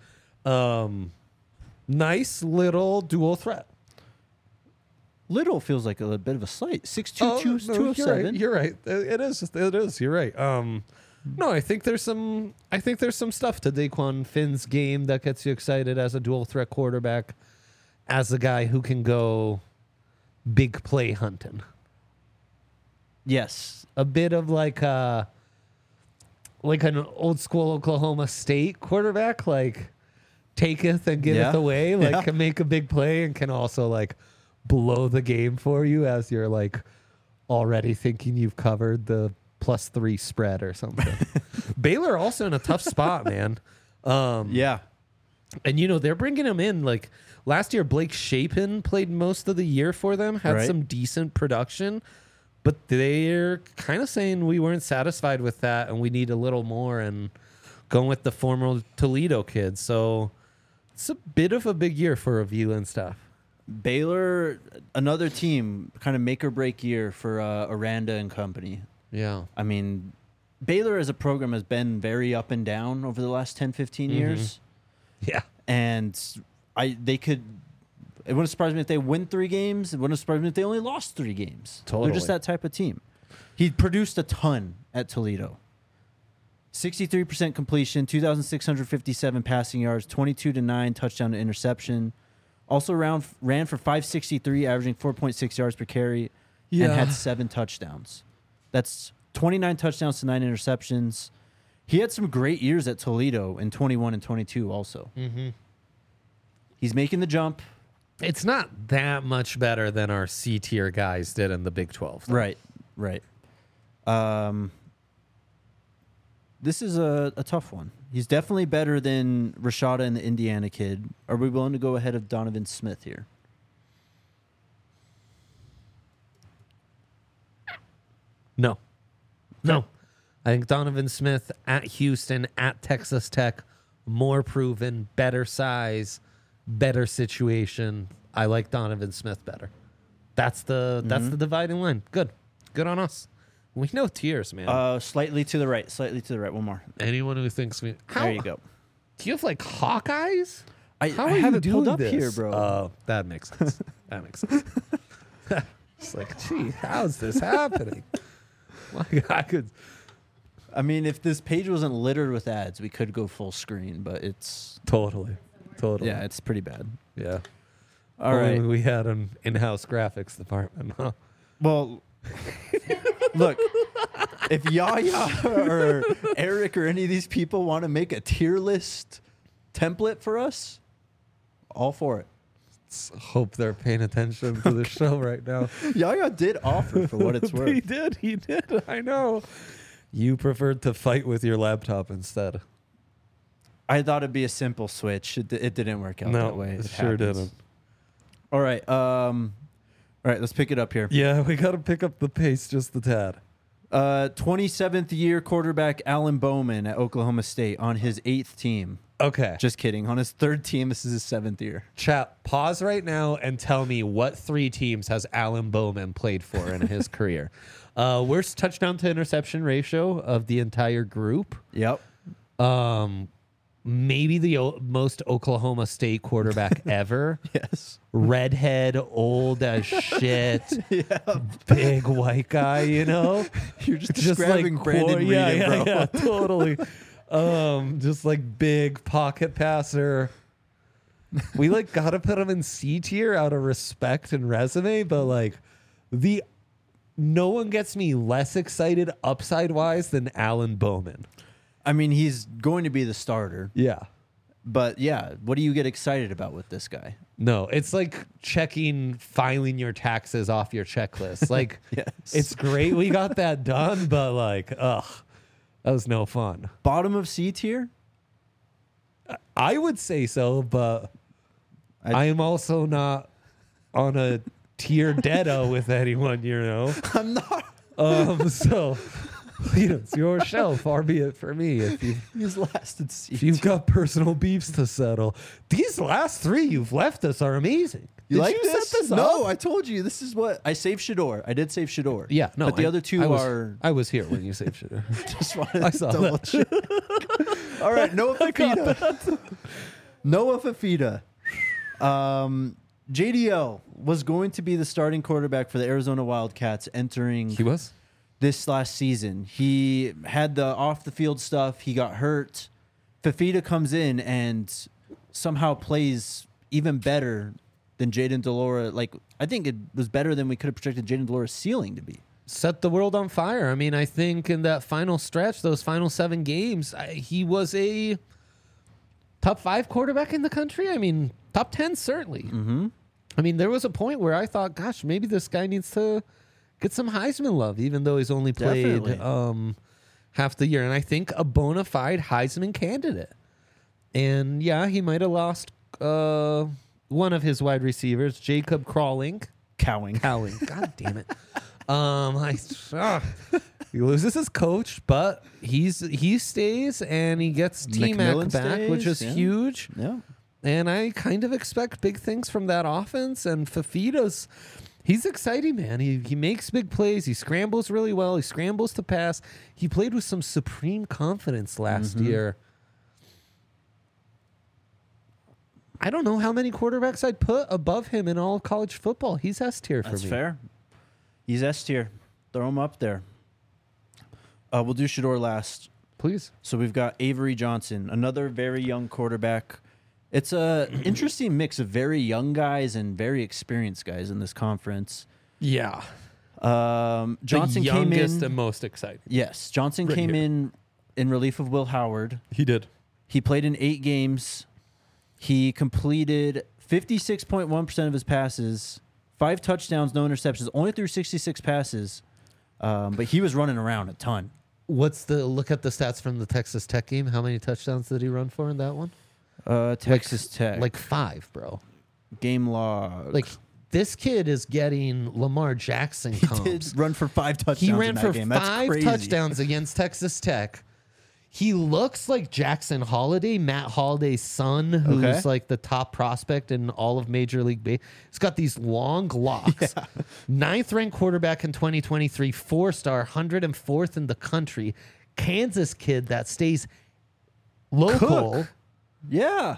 Nice little dual threat.
Little feels like a bit of a slight. 6'2",
no,
207.
You're right. It is. It is. You're right. No, I think there's some stuff to Daquan Finn's game that gets you excited as a dual threat quarterback, as a guy who can go big play hunting.
Yes.
A bit of like an old school Oklahoma State quarterback, like taketh and giveth
Yeah.
away, like
Yeah.
can make a big play and can also like blow the game for you as you're like already thinking you've covered the +3 spread or something. Baylor also in a tough spot, man.
Yeah.
And they're bringing him in like last year. Blake Shapen played most of the year for them, had
Right.
some decent production, but they're kind of saying we weren't satisfied with that and we need a little more, and going with the former Toledo kid. So it's a bit of a big year for Avila and stuff.
Baylor, another team, kind of make or break year for Aranda and company.
Yeah.
I mean, Baylor as a program has been very up and down over the last 10, 15 years.
Yeah.
And it wouldn't surprise me if they win 3 games. It wouldn't surprise me if they only lost 3 games. They're
Totally.
just that type of team. He produced a ton at Toledo. 63% completion, 2,657 passing yards, 22-9 touchdown to interception. Also ran for 563, averaging 4.6 yards per carry, and had 7 touchdowns. That's 29 touchdowns to 9 interceptions. He had some great years at Toledo in 21 and 22 also.
Mm-hmm.
He's making the jump.
It's not that much better than our C tier guys did in the Big 12. though.
Right. This is a tough one. He's definitely better than Rashada and the Indiana kid. Are we willing to go ahead of Donovan Smith here?
No. I think Donovan Smith at Houston, at Texas Tech, more proven, better size, better situation. I like Donovan Smith better. That's the dividing line. Good on us. We know tiers, man.
Slightly to the right. One more.
Anyone who thinks we...
There you go.
Do you have like Hawkeyes?
I
How are
have
you
it pulled
doing
up
this?
here, bro.
Oh, that makes sense. It's like, gee, how's this happening? Like, I could...
I mean, if this page wasn't littered with ads, we could go full screen, but it's...
Totally.
Yeah, it's pretty bad.
Yeah.
All right.
We had an in-house graphics department, huh?
Well, look, if Yaya or Eric or any of these people want to make a tier list template for us, all for it.
Let's hope they're paying attention to the show right now.
Yaya did offer for what it's worth.
He did. I know. You preferred to fight with your laptop instead.
I thought it'd be a simple switch. It didn't work out that way.
It sure
happens.
didn't.
All right. Let's pick it up here.
Yeah, we got to pick up the pace just a tad.
27th year quarterback Alan Bowman at Oklahoma State on his 8th team.
Okay.
Just kidding. On his 3rd team, this is his 7th year.
Chat, pause right now and tell me what 3 teams has Alan Bowman played for in his career. Worst touchdown to interception ratio of the entire group.
Yep.
Maybe the most Oklahoma State quarterback ever.
Yes.
Redhead, old as shit, big white guy, you know?
You're just describing Brandon Reed, bro.
Yeah, totally. Just like big pocket passer. We like gotta put him in C tier out of respect and resume, but like no one gets me less excited upside wise than Alan Bowman.
I mean, he's going to be the starter.
Yeah.
But yeah, what do you get excited about with this guy?
No, it's like filing your taxes off your checklist. Like,
Yes.
It's great we got that done, but like, that was no fun.
Bottom of C tier?
I would say so, but I am also not on a tier deado with anyone, you know?
I'm not.
So, it's your show, far be it for me.
He's last in C
If you've got personal beefs to settle, these last 3 you've left us are amazing.
You
Did
like
you
this?
set this up?
No, I told you. This is what I saved Shador. I did save Shador.
Yeah, no.
But the other two are.
I was here when you saved shit.
Just wanted
I
to
saw
double
that.
check. All right, Noah Fafita. Noah Fafita. JDL was going to be the starting quarterback for the Arizona Wildcats entering
He was?
this last season. He had the off the field stuff. He got hurt. Fafita comes in and somehow plays even better than Jaden Delora. Like, I think it was better than we could have projected Jaden Delora's ceiling to be.
Set the world on fire. I mean, I think in that final stretch, those final 7 games, he was a top 5 quarterback in the country. I mean, top 10 certainly.
Mm-hmm.
I mean, there was a point where I thought, gosh, maybe this guy needs to get some Heisman love, even though he's only played half the year. And I think a bona fide Heisman candidate. And yeah, he might have lost one of his wide receivers, Jacob Cowing. God damn it. He loses his coach, but he stays and he gets T-Mac
McMillan
back, which is
stays, yeah.
huge.
Yeah.
And I kind of expect big things from that offense. And he's exciting, man. He makes big plays. He scrambles really well. He scrambles to pass. He played with some supreme confidence last year. I don't know how many quarterbacks I'd put above him in all of college football. He's S tier for me.
That's fair. He's S tier. Throw him up there. We'll do Shador last.
Please.
So we've got Avery Johnson, another very young quarterback. It's a interesting mix of very young guys and very experienced guys in this conference.
Yeah.
Johnson
the
came
youngest
in.
and most exciting.
Yes, Johnson
Right
came
here.
in relief of Will Howard.
He did.
He played in 8 games. He completed 56.1% of his passes, 5 touchdowns, no interceptions, only threw 66 passes. But he was running around a ton.
Look at the stats from the Texas Tech game? How many touchdowns did he run for in that one?
Texas Tech.
Like 5, bro.
Game log.
Like, this kid is getting Lamar Jackson comps.
He did run for 5 touchdowns
He ran
in that
for
game. That's
5
crazy.
touchdowns against Texas Tech. He looks like Jackson Holiday, Matt Holiday's son, who's
Okay.
like the top prospect in all of Major League Baseball. He's got these long locks. 9th ranked quarterback in 2023, 4-star, 104th in the country. Kansas kid that stays local.
Cook. Yeah.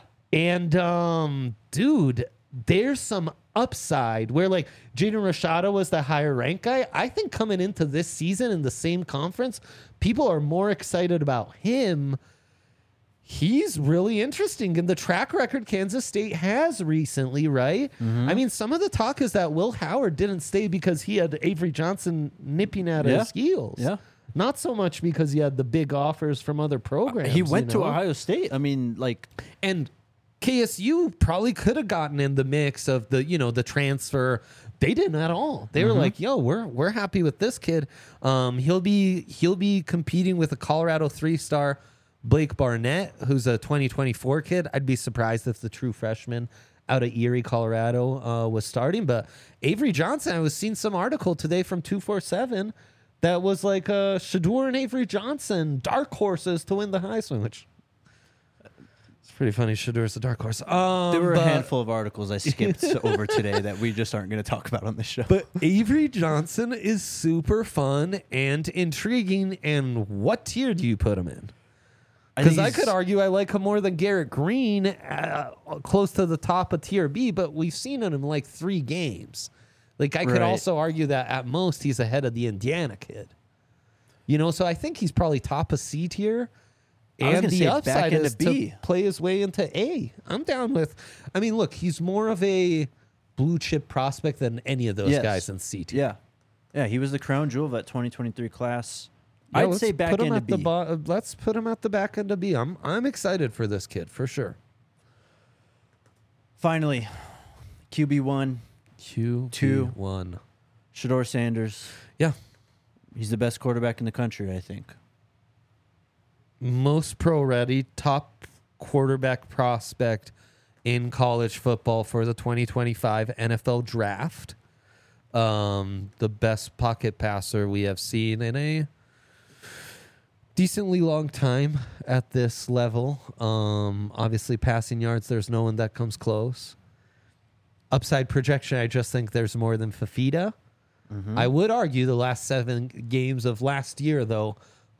And dude, there's some upside where like Jaden Rashada was the higher ranked guy. I think coming into this season in the same conference, people are more excited about him. He's really interesting in the track record Kansas State has recently, right? I mean, some of the talk is that Will Howard didn't stay because he had Avery Johnson nipping at his heels.
Yeah.
Not so much because he had the big offers from other programs.
He went
you
to
know?
Ohio State. I mean, like,
And KSU probably could have gotten in the mix of the, the transfer. They didn't at all. They were like, "Yo, we're happy with this kid. He'll be competing with a Colorado 3-star Blake Barnett, who's a 2024 kid. I'd be surprised if the true freshman out of Erie, Colorado, was starting. But Avery Johnson, I was seeing some article today from 247 that was like Shedeur and Avery Johnson, dark horses to win the Heisman, which. Pretty funny. Shedeur's a dark horse.
there were a handful of articles I skipped over today that we just aren't going to talk about on this show.
But Avery Johnson is super fun and intriguing. And what tier do you put him in? Because I could argue I like him more than Garrett Green, close to the top of tier B, but we've seen him in like 3 games. Like I could
Right.
also argue that at most he's ahead of the Indiana kid. So I think he's probably top of C tier.
I was
And
gonna
the
say
upside
back into
is
B.
to play his way into A. I'm down with. I mean, look, he's more of a blue chip prospect than any of those
Yes.
guys in C tier.
Yeah. Yeah, he was the crown jewel of that 2023 class.
Yeah,
I'd
let's
say back
put him
into
at
B.
let's put him at the back end of B. I'm excited for this kid for sure.
Finally, QB1,
QB1.
Shedeur Sanders.
Yeah.
He's the best quarterback in the country, I think.
Most pro ready, top quarterback prospect in college football for the 2025 NFL draft. The best pocket passer we have seen in a decently long time at this level. Obviously, passing yards, there's no one that comes close. Upside projection, I just think there's more than Fafita. I would argue the last 7 games of last year, though,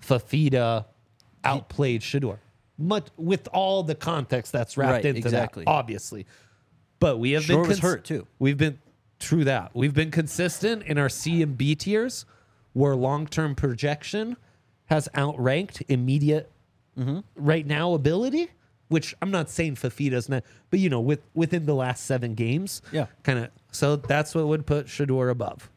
Fafita outplayed Shedeur. With all the context that's wrapped
Right,
into
exactly.
that, obviously. But we have
Shedeur
been
was hurt, too.
We've been true that. We've been consistent in our C and B tiers, where long-term projection has outranked immediate right now ability. Which I'm not saying Fafita's not, but within the last 7 games,
Yeah.
kind of. So that's what would put Shedeur above,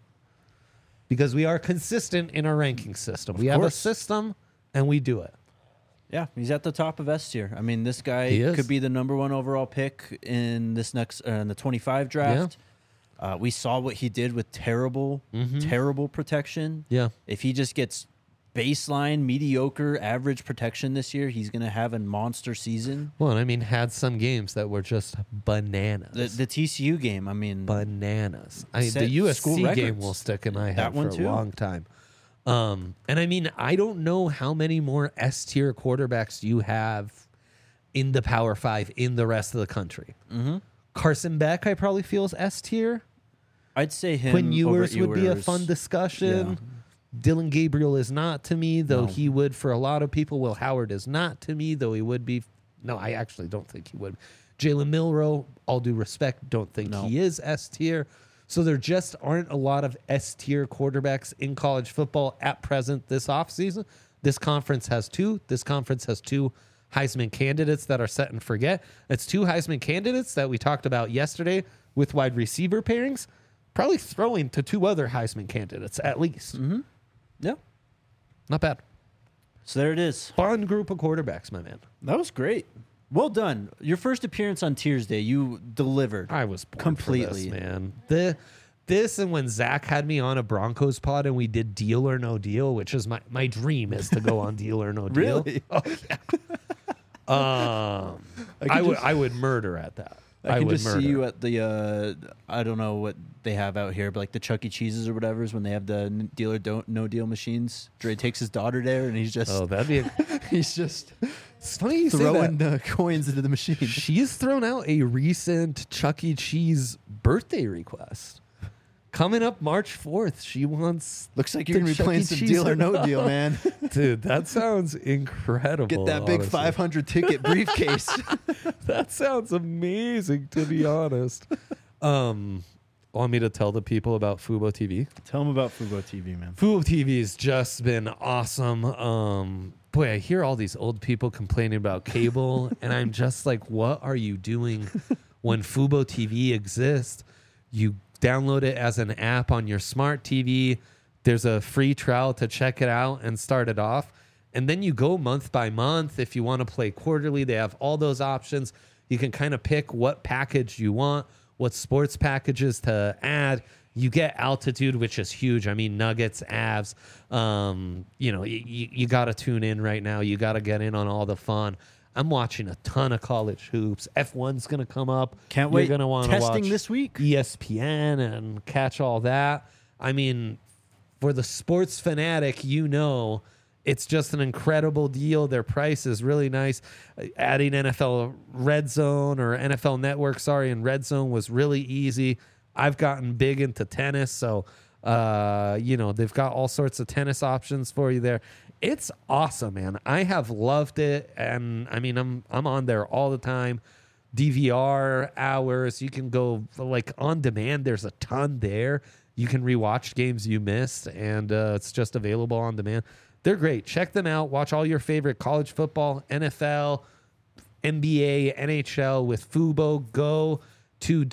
because we are consistent in our ranking system. We have a
course.
system, and we do it.
Yeah, he's at the top of S tier. I mean, this guy
He is.
could be the number 1 overall pick in this next in the 25 draft. We saw what he did with terrible protection.
Yeah.
If he just gets baseline mediocre average protection this year, he's going to have a monster season.
Well, and I mean, had some games that were just bananas.
The TCU game, I mean,
Bananas.
Set
The
school
USC game
records.
will stick in my
That
head
one
for
too.
a long time. And I mean, I don't know how many more S tier quarterbacks you have in the Power 5 in the rest of the country. Carson Beck, I probably feel is S tier.
I'd say him.
Quinn
over
Ewers would be a
Ewers.
fun discussion.
Yeah.
Dylan Gabriel is not to me, though
No.
he would for a lot of people. Will Howard is not to me, though he would be. No, I actually don't think he would. Jalen Milroe, all due respect, don't think
No.
he is S tier. So there just aren't a lot of S tier quarterbacks in college football at present this offseason. This conference has 2. This conference has 2 Heisman candidates that are set and forget. It's 2 Heisman candidates that we talked about yesterday with wide receiver pairings. Probably throwing to 2 other Heisman candidates at least.
Yeah.
Not bad.
So there it is.
Fun group of quarterbacks, my man.
That was great. Well done. Your first appearance on Tiers Day, you delivered.
I was born
completely,
for this, man. this and when Zach had me on a Broncos pod and we did Deal or No Deal, which is my dream is to go on Deal or No Deal.
Really?
Oh, yeah. I would murder at that.
I can
would
just
murder.
see you at the I don't know what they have out here, but like the Chuck E. Cheese's or whatever is when they have the Deal or Don't No Deal machines. Dre takes his daughter there, and he's just
Oh, that'd be.
he's just
It's funny you say
throwing
that.
the coins into the machine.
She's thrown out a recent Chuck E. Cheese birthday request. Coming up March 4th, she wants.
Looks like you're
the
gonna be
Chuck
playing
E.
some
Cheese.
Deal or No Deal, man.
Dude, that sounds incredible.
Get that big
honestly.
500 ticket briefcase.
That sounds amazing, to be honest. Want me to tell the people about Fubo TV?
Tell them about Fubo TV, man.
Fubo TV's just been awesome. Boy, I hear all these old people complaining about cable, and I'm just like, what are you doing when Fubo TV exists? You download it as an app on your smart TV. There's a free trial to check it out and start it off. And then you go month by month. If you want to play quarterly, they have all those options. You can kind of pick what package you want, what sports packages to add. You get Altitude, which is huge. I mean, Nuggets, Avs. You got to tune in right now. You got to get in on all the fun. I'm watching a ton of college hoops. F1's going to come up.
Can't
You're
wait.
going to want to watch
Testing this week.
ESPN and catch all that. I mean, for the sports fanatic, it's just an incredible deal. Their price is really nice. Adding NFL Red Zone or NFL Network, and Red Zone was really easy. I've gotten big into tennis, so they've got all sorts of tennis options for you there. It's awesome, man. I have loved it, and I mean, I'm on there all the time. DVR hours. You can go like on demand. There's a ton there. You can rewatch games you missed, and it's just available on demand. They're great. Check them out. Watch all your favorite college football, NFL, NBA, NHL with Fubo. Go to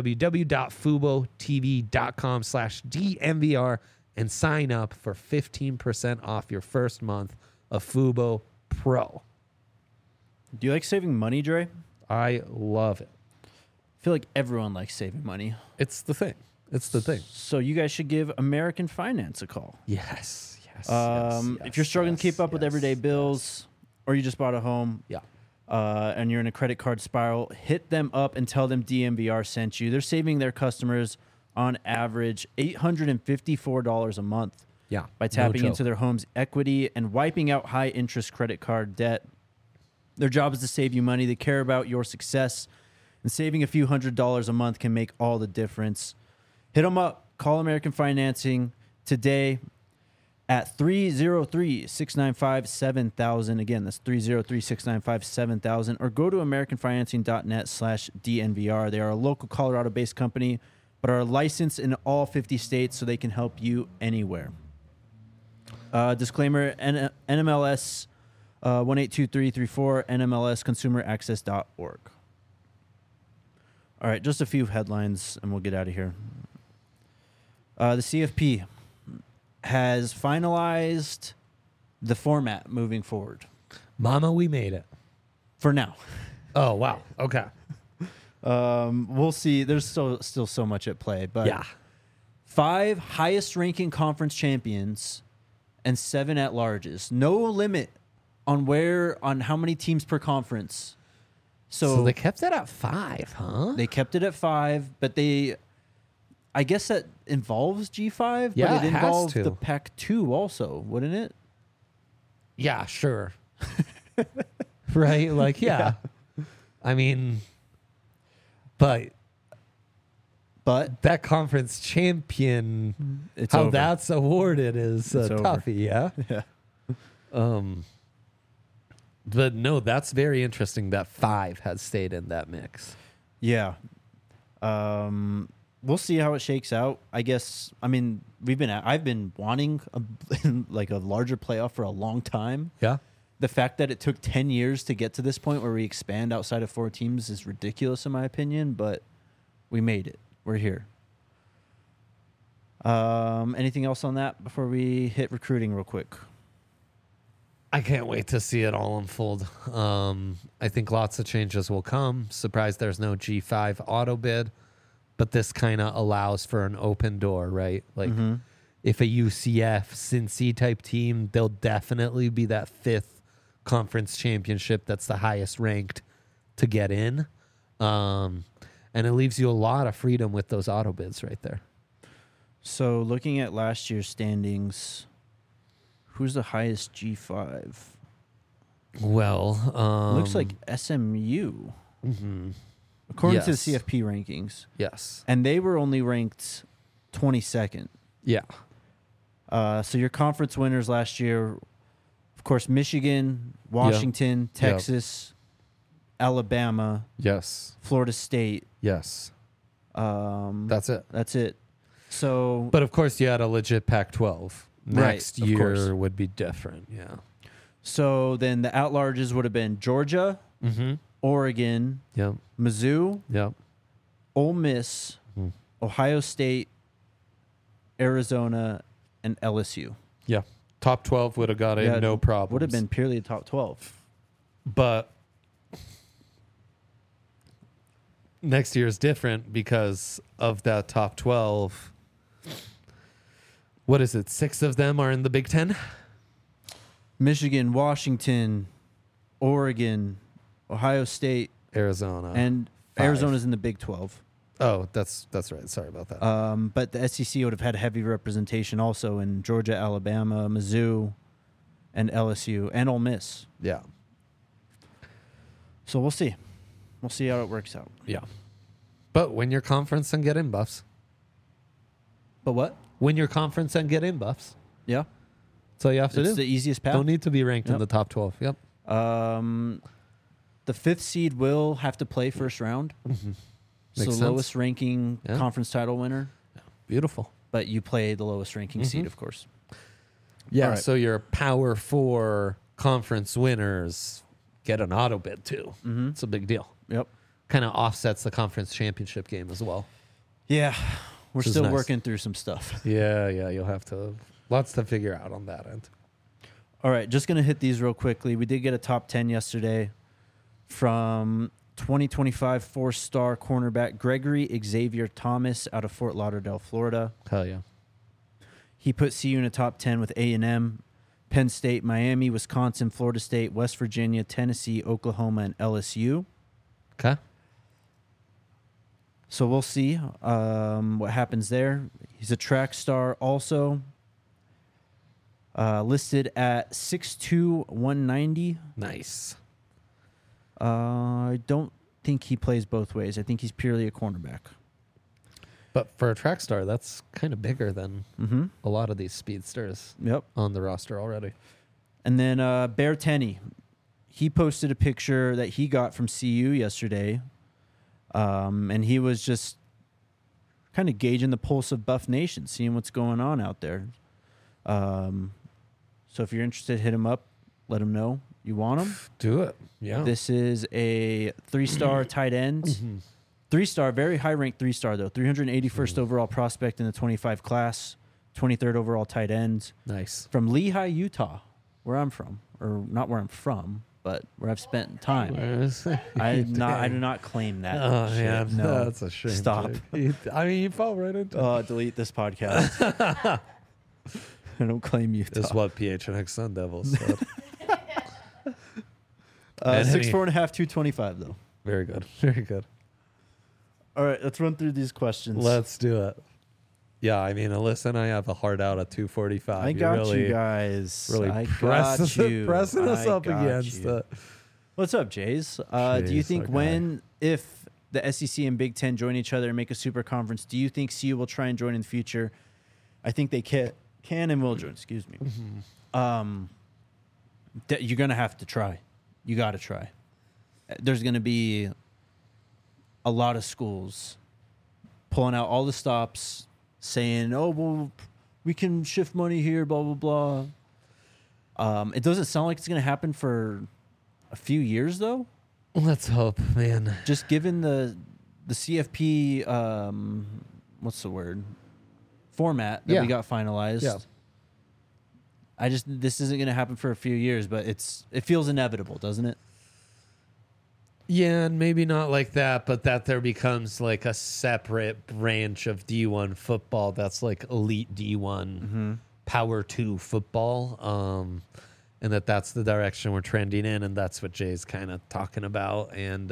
www.fubotv.com/DNVR and sign up for 15% off your first month of Fubo Pro.
Do you like saving money, Dre?
I love it.
I feel like everyone likes saving money.
It's the thing. It's the thing.
So you guys should give American Finance a call.
Yes.
If you're struggling to keep up with everyday bills, or you just bought a home,
Yeah.
and you're in a credit card spiral, hit them up and tell them DMVR sent you. They're saving their customers on average $854 a month
Yeah.
by tapping into their home's equity and wiping out high interest credit card debt. Their job is to save you money. They care about your success, and saving a few $100s a month can make all the difference. Hit them up. Call American Financing today at 303-695-7000. Again, that's 303-695-7000. Or go to americanfinancing.net/DNVR. They are a local Colorado-based company, but are licensed in all 50 states, so they can help you anywhere. Disclaimer, NMLS 182334, NMLSconsumeraccess.org. All right, just a few headlines, and we'll get out of here. The CFP has finalized the format moving forward.
Mama, we made it.
For now.
Oh, wow. Okay.
We'll see. There's still so much at play, but
Yeah.
5 highest ranking conference champions and 7 at-larges. No limit on how many teams per conference.
So they kept it at 5, huh?
They kept it at 5, but I guess that involves G5,
Yeah,
but it
it has
involved
to.
the Pac-2 also, wouldn't it?
Yeah, sure. Right? Like, yeah. I mean, but that conference champion,
It's
how
over.
that's awarded is
It's over.
toughie, yeah?
Yeah.
But no, that's very interesting that 5 has stayed in that mix.
Yeah. We'll see how it shakes out. I guess. I mean, I've been wanting a larger playoff for a long time.
Yeah.
The fact that it took 10 years to get to this point where we expand outside of 4 teams is ridiculous in my opinion, but we made it. We're here. Anything else on that before we hit recruiting real quick?
I can't wait to see it all unfold. I think lots of changes will come. Surprised there's no G5 auto bid. but this kind of allows for an open door, right? Like if a UCF, Cincy type team, they'll definitely be that 5th conference championship that's the highest ranked to get in. And it leaves you a lot of freedom with those auto bids right there.
So looking at last year's standings, who's the highest G5?
Well,
Looks like SMU, according to the
Yes.
CFP rankings.
yes.
And they were only ranked 22nd.
Yeah.
So your conference winners last year, of course, Michigan, Washington,
Yep.
Texas, Alabama,
Yes.
Florida State.
Yes.
That's
That's it.
it. So,
But of course, you had a legit Pac-12.
Right,
Next
of course.
year would be different. Yeah.
so then the at-larges would have been Georgia,
Mm-hmm.
Oregon,
Yep.
Mizzou,
Yep.
Ole Miss,
Mhm.
Ohio State, Arizona, and LSU.
Yeah. Top 12 would have got in
Yeah,
no problem.
Would have been purely a top 12.
But next year is different because of that top 12. What is it? 6 of them are in the Big Ten?
Michigan, Washington, Oregon, Ohio State,
Arizona.
and
5.
Arizona's in the Big 12.
Oh, that's right. Sorry about that.
But the SEC would have had heavy representation also in Georgia, Alabama, Mizzou, and LSU, and Ole Miss.
Yeah.
So we'll see. We'll see how it works out.
Yeah. But win your conference and get in buffs.
But what?
Win your conference and get in buffs.
Yeah.
That's all you have to
It's
do.
the easiest path.
Don't need to be ranked in
Yep.
the top 12. Yep.
The 5th seed will have to play first round. So
Makes
the
sense.
lowest ranking
Yeah.
conference title winner,
Beautiful.
but you play the lowest ranking seed, of course.
Yeah.
All right.
So your Power 4 conference winners get an auto bid too.
Mm-hmm.
It's a big deal.
Yep.
Kind of offsets the conference championship game as well.
Yeah. We're
Which is
still
nice.
working through some stuff.
Yeah. You'll have to, lots to figure out on that end.
All right, just going to hit these real quickly. We did get a top 10 yesterday from 2025 4-star cornerback Gregory Xavier Thomas out of Fort Lauderdale, Florida.
Hell yeah.
He put CU in a top 10 with A&M, Penn State, Miami, Wisconsin, Florida State, West Virginia, Tennessee, Oklahoma, and LSU.
Okay.
So we'll see what happens there. He's a track star also. Listed at 6'2", 190.
Nice.
I don't think he plays both ways. I think he's purely a cornerback.
But for a track star, that's kind of bigger than
Mm-hmm.
a lot of these speedsters
Yep.
on the roster already.
And then Bear Tenney, he posted a picture that he got from CU yesterday, and he was just kind of gauging the pulse of Buff Nation, seeing what's going on out there. So if you're interested, hit him up. Let him know you want him.
Do it. Yeah.
This is a 3-star tight end. 3-star, very high-ranked 3-star, though. 381st overall prospect in the 25 class, 23rd overall tight end
Nice.
from Lehigh, Utah, where I'm from. Or not where I'm from, but where I've spent time. I do not claim that.
Oh,
shit.
man.
No.
That's a shame.
Stop.
Jake. I mean, you fell right into it.
Delete this podcast. I don't claim Utah.
This is what PHNX Sun Devils said.
6'4.5", 225, though.
Very good. Very good.
All right, let's run through these questions.
Let's do it. Yeah, I mean, Alyssa and I have a hard out at 245.
I got you guys.
Really
I
pressing,
got you.
pressing us
I
up
got
against
you.
it.
What's up, Jays? Do you
Jays,
think
okay.
if the SEC and Big Ten join each other and make a super conference, do you think CU will try and join in the future? I think they can and will join. Excuse me. You're gonna have to try. You got to try. There's gonna be a lot of schools pulling out all the stops, saying, "Oh, well, we can shift money here." Blah blah blah. It doesn't sound like it's gonna happen for a few years, though.
Let's hope, man.
Just given the CFP, what's the word, format that
Yeah.
we got finalized.
Yeah.
This isn't going to happen for a few years, but it feels inevitable, doesn't it?
Yeah, and maybe not like that, but that there becomes like a separate branch of D1 football that's like elite D1 Power 2 football. And that's the direction we're trending in, and that's what Jay's kind of talking about. And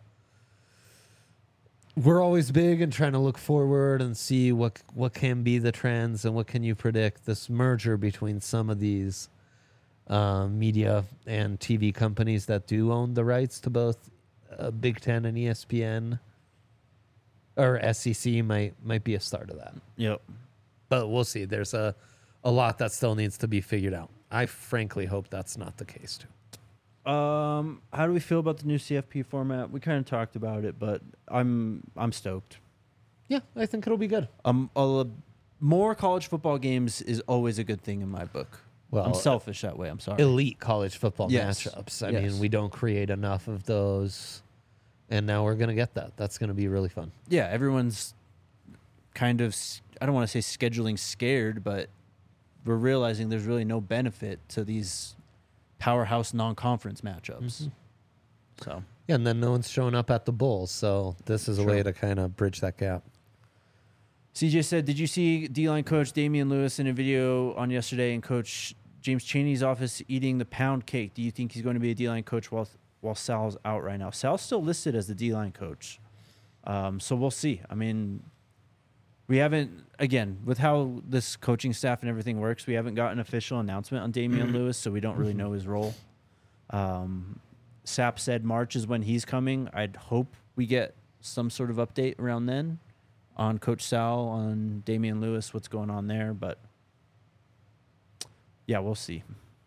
we're always big and trying to look forward and see what can be the trends and what can you predict. This merger between some of these media and TV companies that do own the rights to both Big Ten and ESPN or SEC might be a start of that.
Yep.
But we'll see. There's a lot that still needs to be figured out. I frankly hope that's not the case too.
How do we feel about the new CFP format? We kind of talked about it, but I'm stoked.
Yeah, I think it'll be good.
More college football games is always a good thing in my book.
Well,
I'm selfish that way. I'm sorry.
Elite college football
Yes.
matchups. I
Yes.
mean, we don't create enough of those, and now we're going to get that. That's going to be really fun.
Yeah, everyone's kind of, I don't want to say scheduling scared, but we're realizing there's really no benefit to these powerhouse non-conference matchups. So,
Yeah, and then no one's showing up at the Bulls, so this is a
True.
way to kind of bridge that gap.
CJ said, did you see D-line coach Damian Lewis in a video on yesterday in Coach James Chaney's office eating the pound cake? Do you think he's going to be a D-line coach while Sal's out right now? Sal's still listed as the D-line coach. So we'll see. I mean, we haven't, again, with how this coaching staff and everything works, we haven't got an official announcement on Damian Lewis, so we don't really know his role. Sapp said March is when he's coming. I'd hope we get some sort of update around then on Coach Sal, on Damian Lewis, what's going on there. But, yeah, we'll see.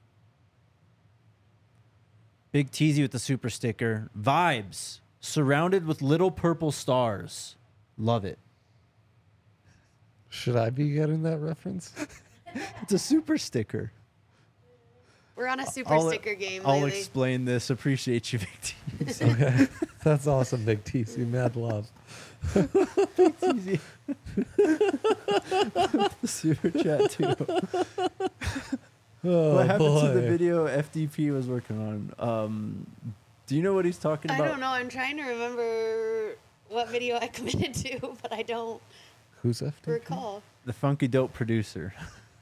Big Teasy with the super sticker. Vibes. Surrounded with little purple stars. Love it.
Should I be getting that reference?
It's a super sticker.
We're on a super sticker game
I'll
lately.
explain this. Appreciate you, Big Teasy.
Okay. That's awesome, Big TC. Mad love.
Teasy. Super chat, too.
Oh,
What happened to the
boy.
video FDP was working on? Do you know what he's talking
I
about?
don't know. I'm trying to remember what video I committed to, but I don't
Who's FD?
recall.
The Funky Dope producer.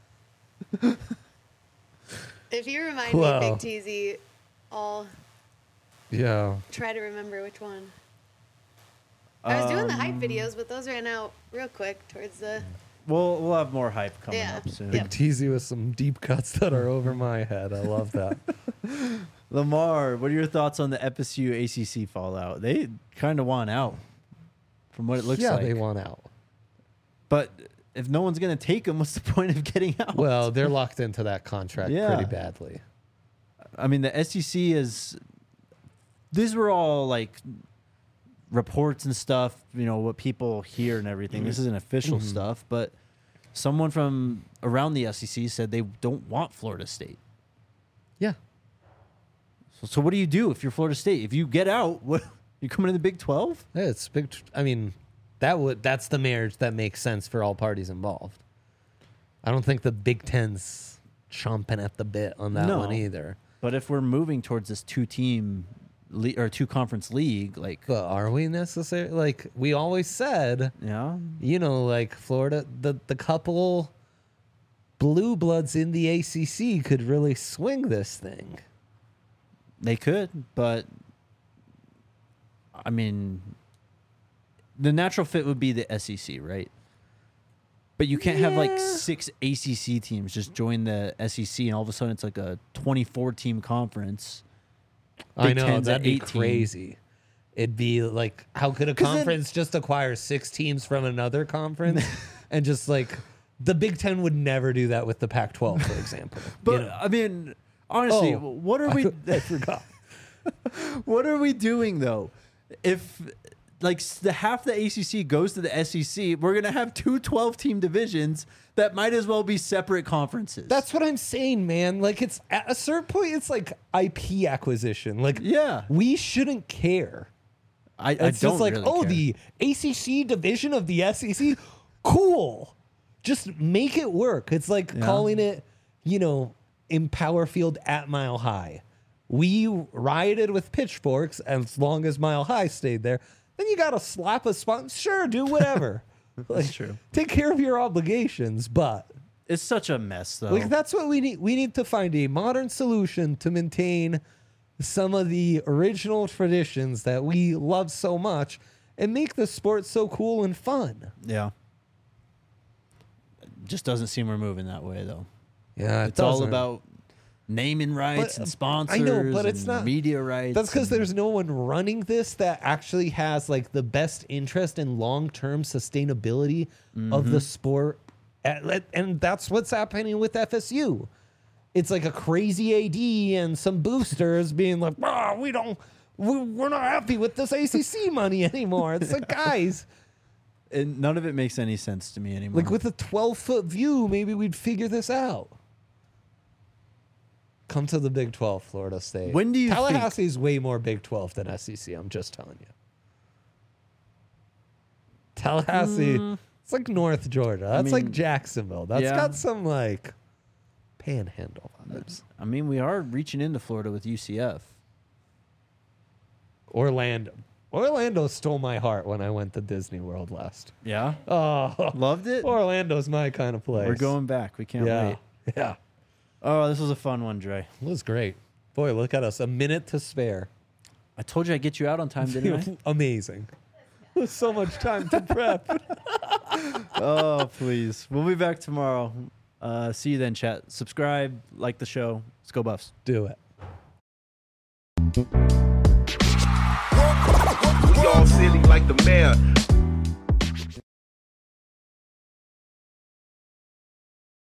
If you remind
Wow.
me, Big Teasy, I'll
Yeah.
try to remember which one. I was doing the hype videos, but those ran out real quick towards the.
We'll have more hype coming
Yeah.
up soon.
Big TZ with some deep cuts that are over my head. I love that.
Lamar, what are your thoughts on the FSU ACC fallout? They kind of want out, from what it looks
yeah,
like.
they want out.
But if no one's going to take them, what's the point of getting out?
Well, they're locked into that contract
Yeah.
pretty badly.
I mean, the SEC is. These were all like reports and stuff, you know, what people hear and everything. This isn't official stuff, but someone from around the SEC said they don't want Florida State.
Yeah.
So what do you do if you're Florida State? If you get out, what, you coming in the Big 12?
Yeah, it's big. I mean, that's the marriage that makes sense for all parties involved. I don't think the Big Ten's chomping at the bit on that
No.
one either.
But if we're moving towards this two-team or two-conference league, like,
But are we necessarily? Like we always said,
yeah,
you know, like Florida, the couple blue bloods in the ACC could really swing this thing.
they could, but I mean, the natural fit would be the SEC, right? But you can't have like
Yeah.
6 ACC teams just join the SEC, and all of a sudden it's like a 24-team conference.
I
Big
know,
Ten's
that'd
at
be
18.
crazy. It'd be like, how could a
'Cause then-
conference just acquire 6 teams from another conference and just like the Big Ten would never do that with the Pac-12, for example.
But
you know?
I mean, honestly,
Oh,
what are we?
I forgot.
What are we doing though? If like the half the ACC goes to the SEC, we're gonna have 2 12-team divisions that might as well be separate conferences.
That's what I'm saying, man. Like it's at a certain point, it's like IP acquisition. Like
Yeah.
we shouldn't care.
I
It's
don't
just like,
really
oh,
care.
the ACC division of the SEC, cool. Just make it work. It's like
Yeah.
calling it, you know, Empower Field at Mile High. we rioted with pitchforks as long as Mile High stayed there. Then you got to slap a sponsor. Sure, do whatever.
That's true.
Take care of your obligations, but
It's such a mess, though.
like that's what we need. We need to find a modern solution to maintain some of the original traditions that we love so much and make the sport so cool and fun.
Yeah. It just doesn't seem we're moving that way, though.
Yeah,
It's all about naming rights
But,
and sponsors.
I know, but it's
and
not
media rights.
That's because
and-
there's no one running this that actually has like the best interest in long-term sustainability of the sport, and that's what's happening with FSU. It's like a crazy AD and some boosters being like, we're not happy with this ACC money anymore. It's like, guys,
And none of it makes any sense to me anymore.
like with a 12-foot view, maybe we'd figure this out. Come to the Big 12, Florida State.
When do you think-
Tallahassee is way more Big 12 than SEC. I'm just telling you. Tallahassee, it's like North Georgia. That's like
mean,
Jacksonville. That's
yeah.
got some like panhandle vibes.
I mean, we are reaching into Florida with UCF.
Orlando stole my heart when I went to Disney World last.
Yeah.
Oh,
Loved it.
Orlando's my kind of place.
We're going back. We can't
Yeah,
wait.
yeah.
Oh, this was a fun one, Dre.
It was great. Boy, look at us. A minute to spare.
I told you I'd get you out on time, didn't I?
Amazing. There's so much time to prep.
Oh, please. We'll be back tomorrow. See you then, chat. Subscribe, like the show. Let's go Buffs.
Do it.
We all silly like the mayor.